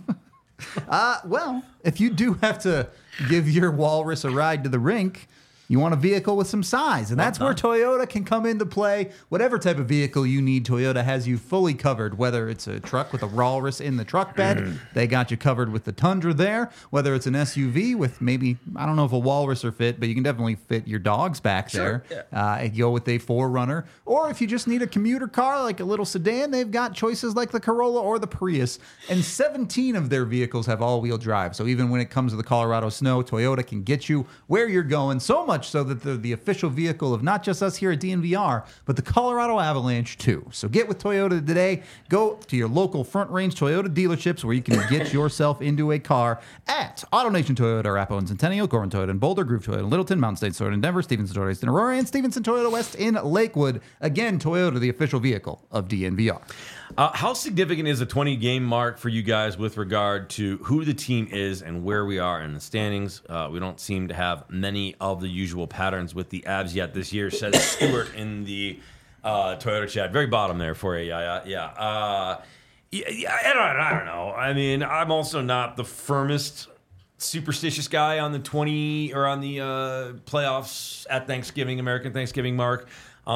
S2: Well, if you do have to give your walrus a ride to the rink, you want a vehicle with some size, and that's where Toyota can come into play. Whatever type of vehicle you need, Toyota has you fully covered. Whether it's a truck with a walrus in the truck bed, they got you covered with the Tundra there. Whether it's an SUV with maybe, I don't know if a walrus will fit, but you can definitely fit your dogs back there. Yeah. Go with a 4Runner. Or if you just need a commuter car, like a little sedan, they've got choices like the Corolla or the Prius. And 17 of their vehicles have all-wheel drive. So even when it comes to the Colorado snow, Toyota can get you where you're going. So much so that they're the official vehicle of not just us here at DNVR, but the Colorado Avalanche too. So get with Toyota today. Go to your local Front Range Toyota dealerships where you can get yourself into a car at AutoNation Toyota, Arapahoe and Centennial, Gorman Toyota and Boulder, Groove Toyota in Littleton, Mountain State Toyota in Denver, Stevenson Toyota in Aurora, and Stevenson Toyota West in Lakewood. Again, Toyota, the official vehicle of DNVR.
S1: How significant is the 20-game mark for you guys with regard to who the team is and where we are in the standings? We don't seem to have many of the usual patterns with the Avs yet this year, says Stuart in the Toyota chat. Very bottom there for you. Yeah. I don't know. I mean, I'm also not the firmest superstitious guy on the 20 or on the playoffs at Thanksgiving, American Thanksgiving mark.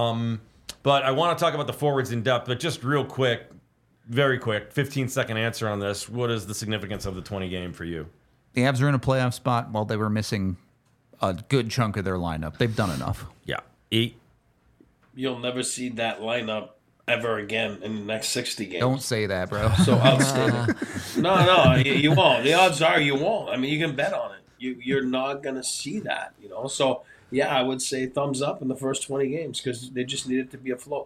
S1: But I want to talk about the forwards in depth, but just real quick, very quick, 15-second answer on this. What is the significance of the 20 game for you?
S2: The Avs are in a playoff spot while they were missing a good chunk of their lineup. They've done enough.
S1: Yeah. 8.
S3: You'll never see that lineup ever again in the next 60 games.
S2: Don't say that, bro.
S3: So outstanding. No, you won't. The odds are you won't. I mean, you can bet on it. You're not going to see that, So, yeah, I would say thumbs up in the first 20 games because they just needed to be afloat.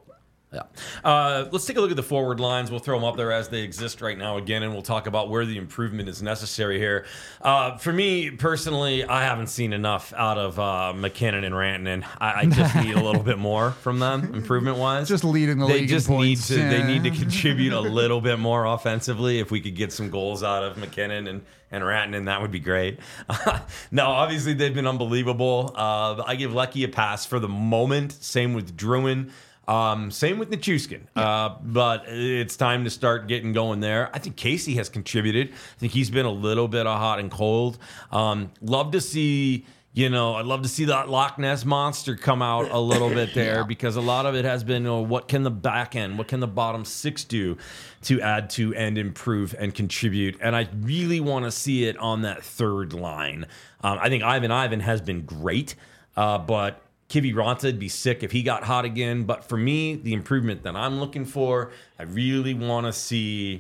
S1: Yeah. Let's take a look at the forward lines. We'll throw them up there as they exist right now again, and we'll talk about where the improvement is necessary here. For me, personally, I haven't seen enough out of McKinnon and Rantanen. I just need a little bit more from them, improvement-wise.
S2: Just leading the league in points.
S1: They need to contribute a little bit more offensively. If we could get some goals out of McKinnon and Rantanen, that would be great. No, obviously, they've been unbelievable. I give Leckie a pass for the moment. Same with Druin. Same with Nichushkin, but it's time to start getting going there. I think Casey has contributed. I think he's been a little bit of hot and cold. Love to see, I'd love to see that Loch Ness monster come out a little bit there because a lot of it has been, what can the back end, what can the bottom six do to add to and improve and contribute? And I really want to see it on that third line. I think Ivan has been great, but Kivi Ranta'd be sick if he got hot again. But for me, the improvement that I'm looking for, I really want to see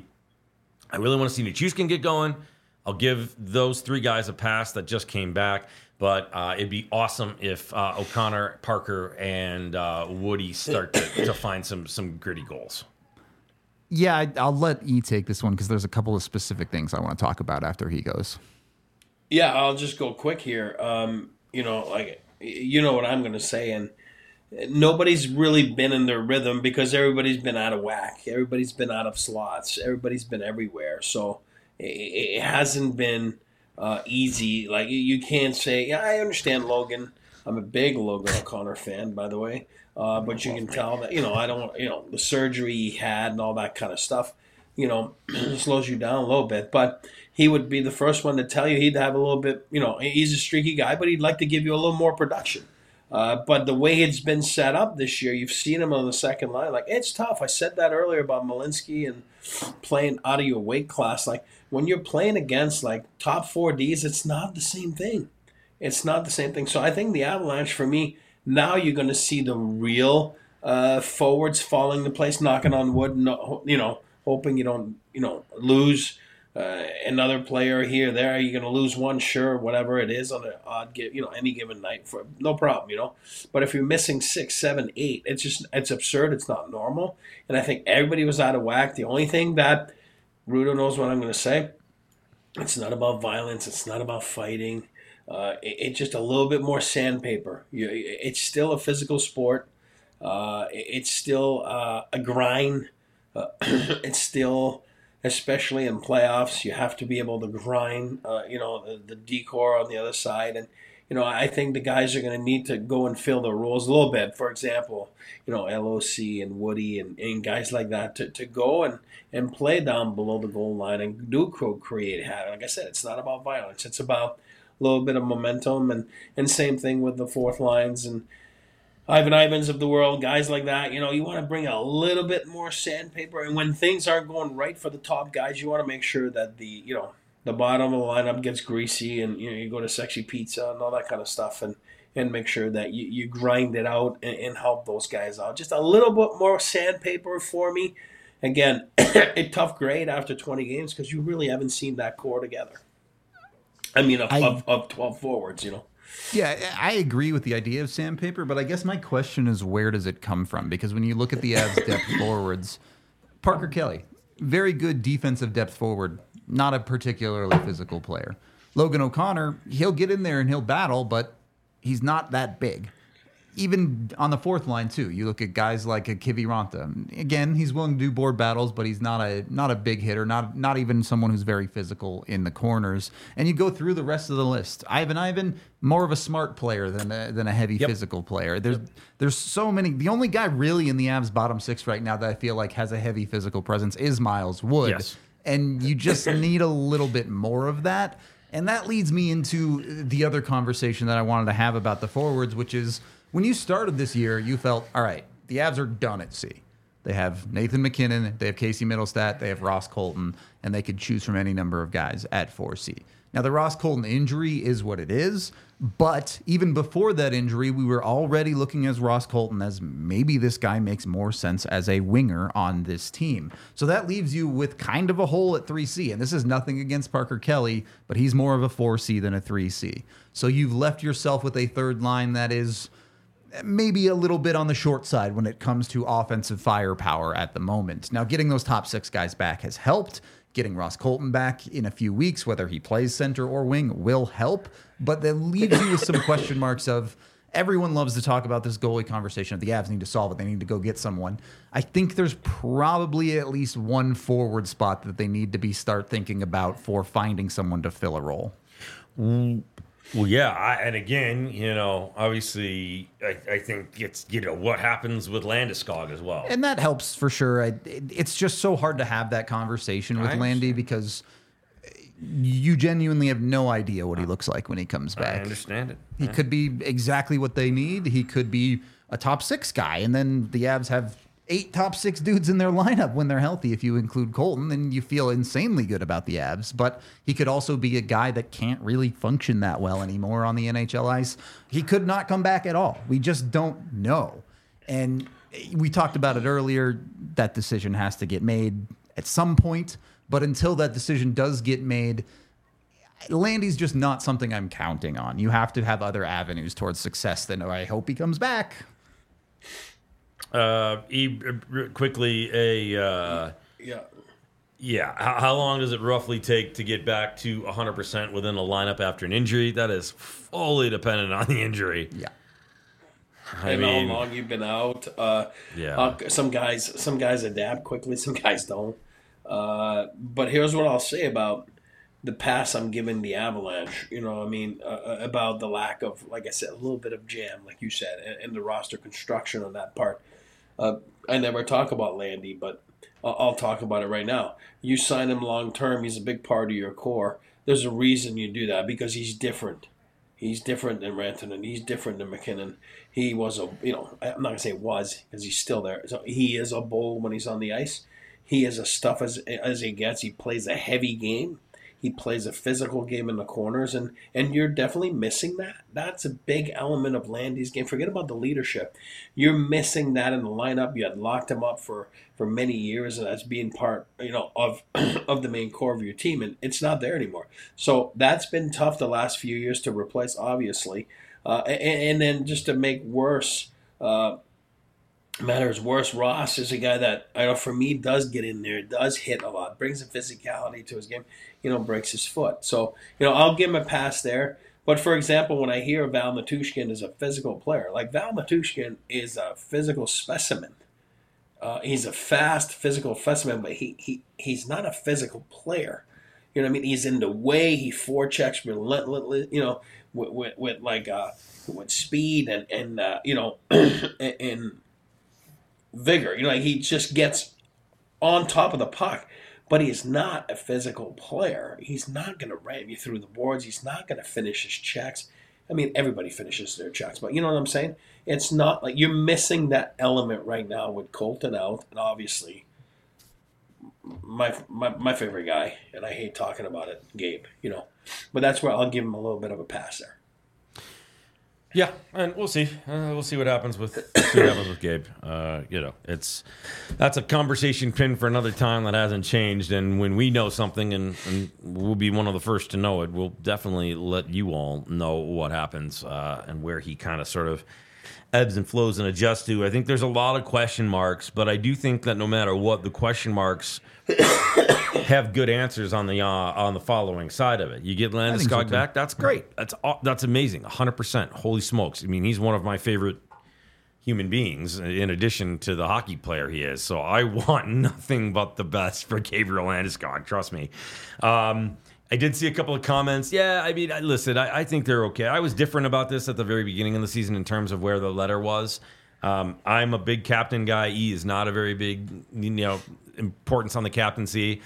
S1: Nichushkin get going. I'll give those three guys a pass that just came back. But it'd be awesome if O'Connor, Parker, and Woody start to find some gritty goals.
S2: Yeah, I'll let E take this one because there's a couple of specific things I want to talk about after he goes.
S3: Yeah, I'll just go quick here. You know what I'm going to say, and nobody's really been in their rhythm because everybody's been out of whack. Everybody's been out of slots. Everybody's been everywhere. So it hasn't been easy. Like, you can't say, yeah, I understand Logan. I'm a big Logan O'Connor fan, by the way. But you can tell that, I don't, the surgery he had and all that kind of stuff. slows you down a little bit. But he would be the first one to tell you he'd have a little bit, he's a streaky guy, but he'd like to give you a little more production. But the way it's been set up this year, you've seen him on the second line. Like, it's tough. I said that earlier about Malinsky and playing out of your weight class. Like, when you're playing against, like, top 4Ds, it's not the same thing. It's not the same thing. So I think the Avalanche, for me, now you're going to see the real forwards falling into place, knocking on wood, hoping you don't, lose another player here or there. You're going to lose one, sure, whatever it is on an odd, any given night, for no problem. But if you're missing 6, 7, 8, it's absurd. It's not normal. And I think everybody was out of whack. The only thing that Rudo knows what I'm going to say, it's not about violence. It's not about fighting. It's just a little bit more sandpaper. It's still a physical sport. It's still a grind. It's still, especially in playoffs, you have to be able to grind, the decor on the other side. And, I think the guys are going to need to go and fill their roles a little bit. For example, LOC and Woody and guys like that to go and play down below the goal line and do create. Like I said, it's not about violence. It's about a little bit of momentum. And same thing with the fourth lines and Ivan Ivans of the world, guys like that. You want to bring a little bit more sandpaper. And when things aren't going right for the top guys, you want to make sure that the bottom of the lineup gets greasy and, you go to Sexy Pizza and all that kind of stuff and make sure that you grind it out and help those guys out. Just a little bit more sandpaper for me. Again, a tough grade after 20 games because you really haven't seen that core together. I mean, of 12 forwards,
S2: Yeah, I agree with the idea of sandpaper, but I guess my question is, where does it come from? Because when you look at the Avs depth forwards, Parker Kelly, very good defensive depth forward, not a particularly physical player. Logan O'Connor, he'll get in there and he'll battle, but he's not that big. Even on the fourth line too, you look at guys like a Kiviranta. Again, he's willing to do board battles, but he's not a big hitter, not even someone who's very physical in the corners. And you go through the rest of the list. Ivan, more of a smart player than a heavy physical player. There's so many. The only guy really in the Avs bottom six right now that I feel like has a heavy physical presence is Miles Wood.
S1: Yes.
S2: And you just need a little bit more of that. And that leads me into the other conversation that I wanted to have about the forwards, which is, when you started this year, you felt, all right, the Avs are done at C. They have Nathan McKinnon, they have Casey Middlestat, they have Ross Colton, and they could choose from any number of guys at 4C. Now, the Ross Colton injury is what it is, but even before that injury, we were already looking at Ross Colton as maybe this guy makes more sense as a winger on this team. So that leaves you with kind of a hole at 3C, and this is nothing against Parker Kelly, but he's more of a 4C than a 3C. So you've left yourself with a third line that is maybe a little bit on the short side when it comes to offensive firepower at the moment. Now, getting those top six guys back has helped. Getting Ross Colton back in a few weeks, whether he plays center or wing, will help. But that leaves you with some question marks of, everyone loves to talk about this goalie conversation of the Avs need to solve it. They need to go get someone. I think there's probably at least one forward spot that they need to start thinking about for finding someone to fill a role.
S1: Well, yeah, and again, obviously, I think it's, what happens with Landeskog as well.
S2: And that helps for sure. It's just so hard to have that conversation with Landy because you genuinely have no idea what he looks like when he comes back.
S1: I understand it.
S2: He could be exactly what they need. He could be a top six guy, and then the Avs have 8 top 6 dudes in their lineup when they're healthy. If you include Colton, then you feel insanely good about the Avs. But he could also be a guy that can't really function that well anymore on the NHL ice. He could not come back at all. We just don't know. And we talked about it earlier. That decision has to get made at some point. But until that decision does get made, Landy's just not something I'm counting on. You have to have other avenues towards success. Then I hope he comes back.
S1: Quickly, how long does it roughly take to get back to 100% within a lineup after an injury? That is fully dependent on the injury.
S2: Yeah.
S3: I mean, how long you've been out. Some guys adapt quickly, some guys don't. But here's what I'll say about the pass I'm giving the Avalanche, about the lack of, like I said, a little bit of jam, like you said, and the roster construction on that part. I never talk about Landy, but I'll talk about it right now. You sign him long term. He's a big part of your core. There's a reason you do that because he's different. He's different than Rantanen. He's different than McKinnon. He was I'm not going to say was because he's still there. So he is a bull when he's on the ice. He is as tough as he gets. He plays a heavy game. He plays a physical game in the corners, and you're definitely missing that. That's a big element of Landy's game. Forget about the leadership. You're missing that in the lineup. You had locked him up for many years as being part, of of the main core of your team, and it's not there anymore. So that's been tough the last few years to replace, obviously. And then just to make matters worse, Ross is a guy that, for me, does get in there, does hit a lot, brings a physicality to his game, breaks his foot. So, I'll give him a pass there. But, for example, when I hear Val Matushkin is a physical player, like Val Matushkin is a physical specimen. He's a fast physical specimen, but he's not a physical player. You know what I mean? He's in the way. He forechecks relentlessly, with speed and and vigor. He just gets on top of the puck, but he is not a physical player. He's not going to ram you through the boards. He's not going to finish his checks. I mean, everybody finishes their checks, but you know what I'm saying? It's not like you're missing that element right now with Colton out, and obviously my favorite guy, and I hate talking about it, Gabe, but that's where I'll give him a little bit of a pass there.
S1: Yeah, and we'll see. We'll see what happens with Gabe. That's a conversation pin for another time that hasn't changed. And when we know something, and we'll be one of the first to know it, we'll definitely let you all know what happens and where he kind of sort of ebbs and flows and adjusts to. I think there's a lot of question marks, but I do think that no matter what, the question marks have good answers on the following side of it. You get Landeskog back, that's great. That's amazing. 100%. Holy smokes! I mean, he's one of my favorite human beings, in addition to the hockey player he is. So I want nothing but the best for Gabriel Landeskog. Trust me. I did see a couple of comments. Yeah, I mean, listen, I think they're okay. I was different about this at the very beginning of the season in terms of where the letter was. I'm a big captain guy. He is not a very big, importance on the captaincy.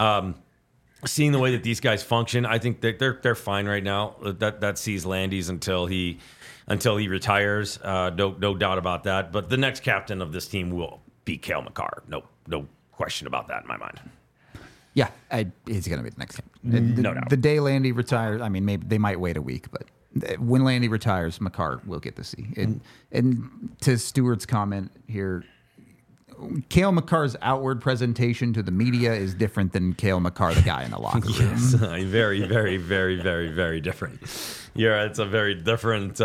S1: Seeing the way that these guys function, I think that they're fine right now. That sees Landy's until he retires. No doubt about that. But the next captain of this team will be Cale Makar. No question about that in my mind.
S2: Yeah, he's going to be the next captain.
S1: No doubt.
S2: The day Landy retires, I mean, maybe they might wait a week, but when Landy retires, Makar will get to see. And to Stuart's comment here, Cale Makar's outward presentation to the media is different than Cale Makar, the guy in the locker room.
S1: Yes, very, very, very, very, very different. Yeah, it's a very different.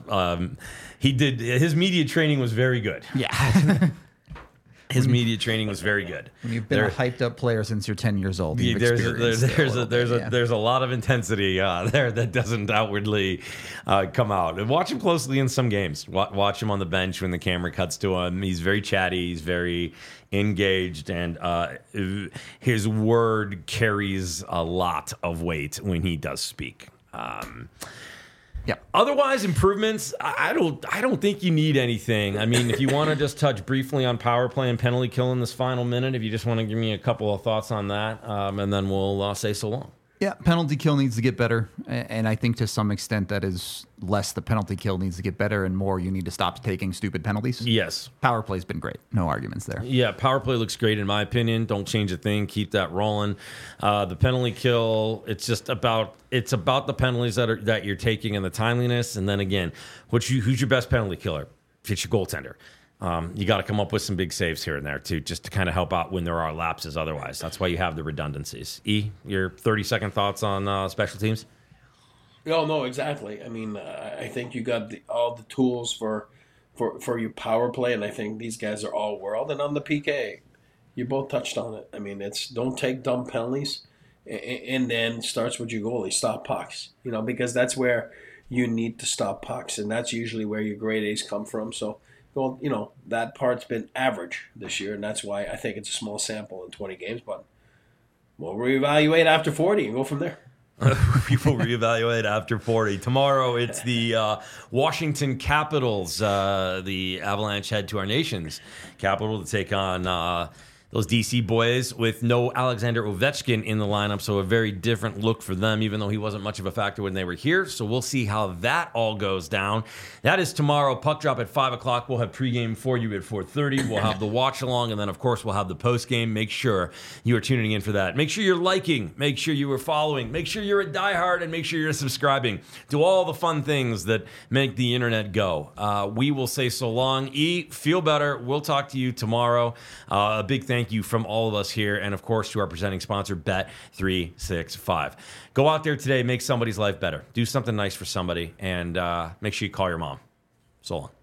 S1: His media training was very good.
S2: Yeah.
S1: His media training was very good.
S2: When you've been a hyped up player since you're 10 years old,
S1: there's a lot of intensity there that doesn't outwardly come out. And watch him closely in some games. Watch him on the bench when the camera cuts to him. He's very chatty. He's very engaged, and his word carries a lot of weight when he does speak.
S2: Yeah.
S1: Otherwise, improvements, I don't think you need anything. I mean, if you want to just touch briefly on power play and penalty kill in this final minute, if you just want to give me a couple of thoughts on that, and then we'll say so long.
S2: Yeah, penalty kill needs to get better, and I think to some extent that is less the penalty kill needs to get better and more you need to stop taking stupid penalties.
S1: Yes.
S2: Power play's been great. No arguments there.
S1: Yeah, power play looks great in my opinion. Don't change a thing. Keep that rolling. The penalty kill, it's about the penalties that you're taking and the timeliness, and then again, who's your best penalty killer? It's your goaltender. You got to come up with some big saves here and there, too, just to kind of help out when there are lapses otherwise. That's why you have the redundancies. Your 30-second thoughts on special teams?
S3: No, exactly. I mean, I think you got all the tools for your power play, and I think these guys are all world. And on the PK, you both touched on it. I mean, don't take dumb penalties, and then starts with your goalie. Stop pucks, because that's where you need to stop pucks, and that's usually where your grade A's come from. So, well, that part's been average this year, and that's why I think it's a small sample in 20 games. But we'll reevaluate after 40 and go from there.
S1: People reevaluate after 40. Tomorrow, it's the Washington Capitals. The Avalanche head to our nation's capital to take on those DC boys with no Alexander Ovechkin in the lineup, so a very different look for them, even though he wasn't much of a factor when they were here. So we'll see how that all goes down. That is tomorrow. Puck drop at 5 o'clock. We'll have pregame for you at 4:30. We'll have the watch along, and then, of course, we'll have the postgame. Make sure you are tuning in for that. Make sure you're liking. Make sure you are following. Make sure you're a diehard, and make sure you're subscribing. Do all the fun things that make the internet go. We will say so long. Feel better. We'll talk to you tomorrow. A big thank you from all of us here, and of course to our presenting sponsor, Bet365. Go out there today, make somebody's life better. Do something nice for somebody, and make sure you call your mom. So long.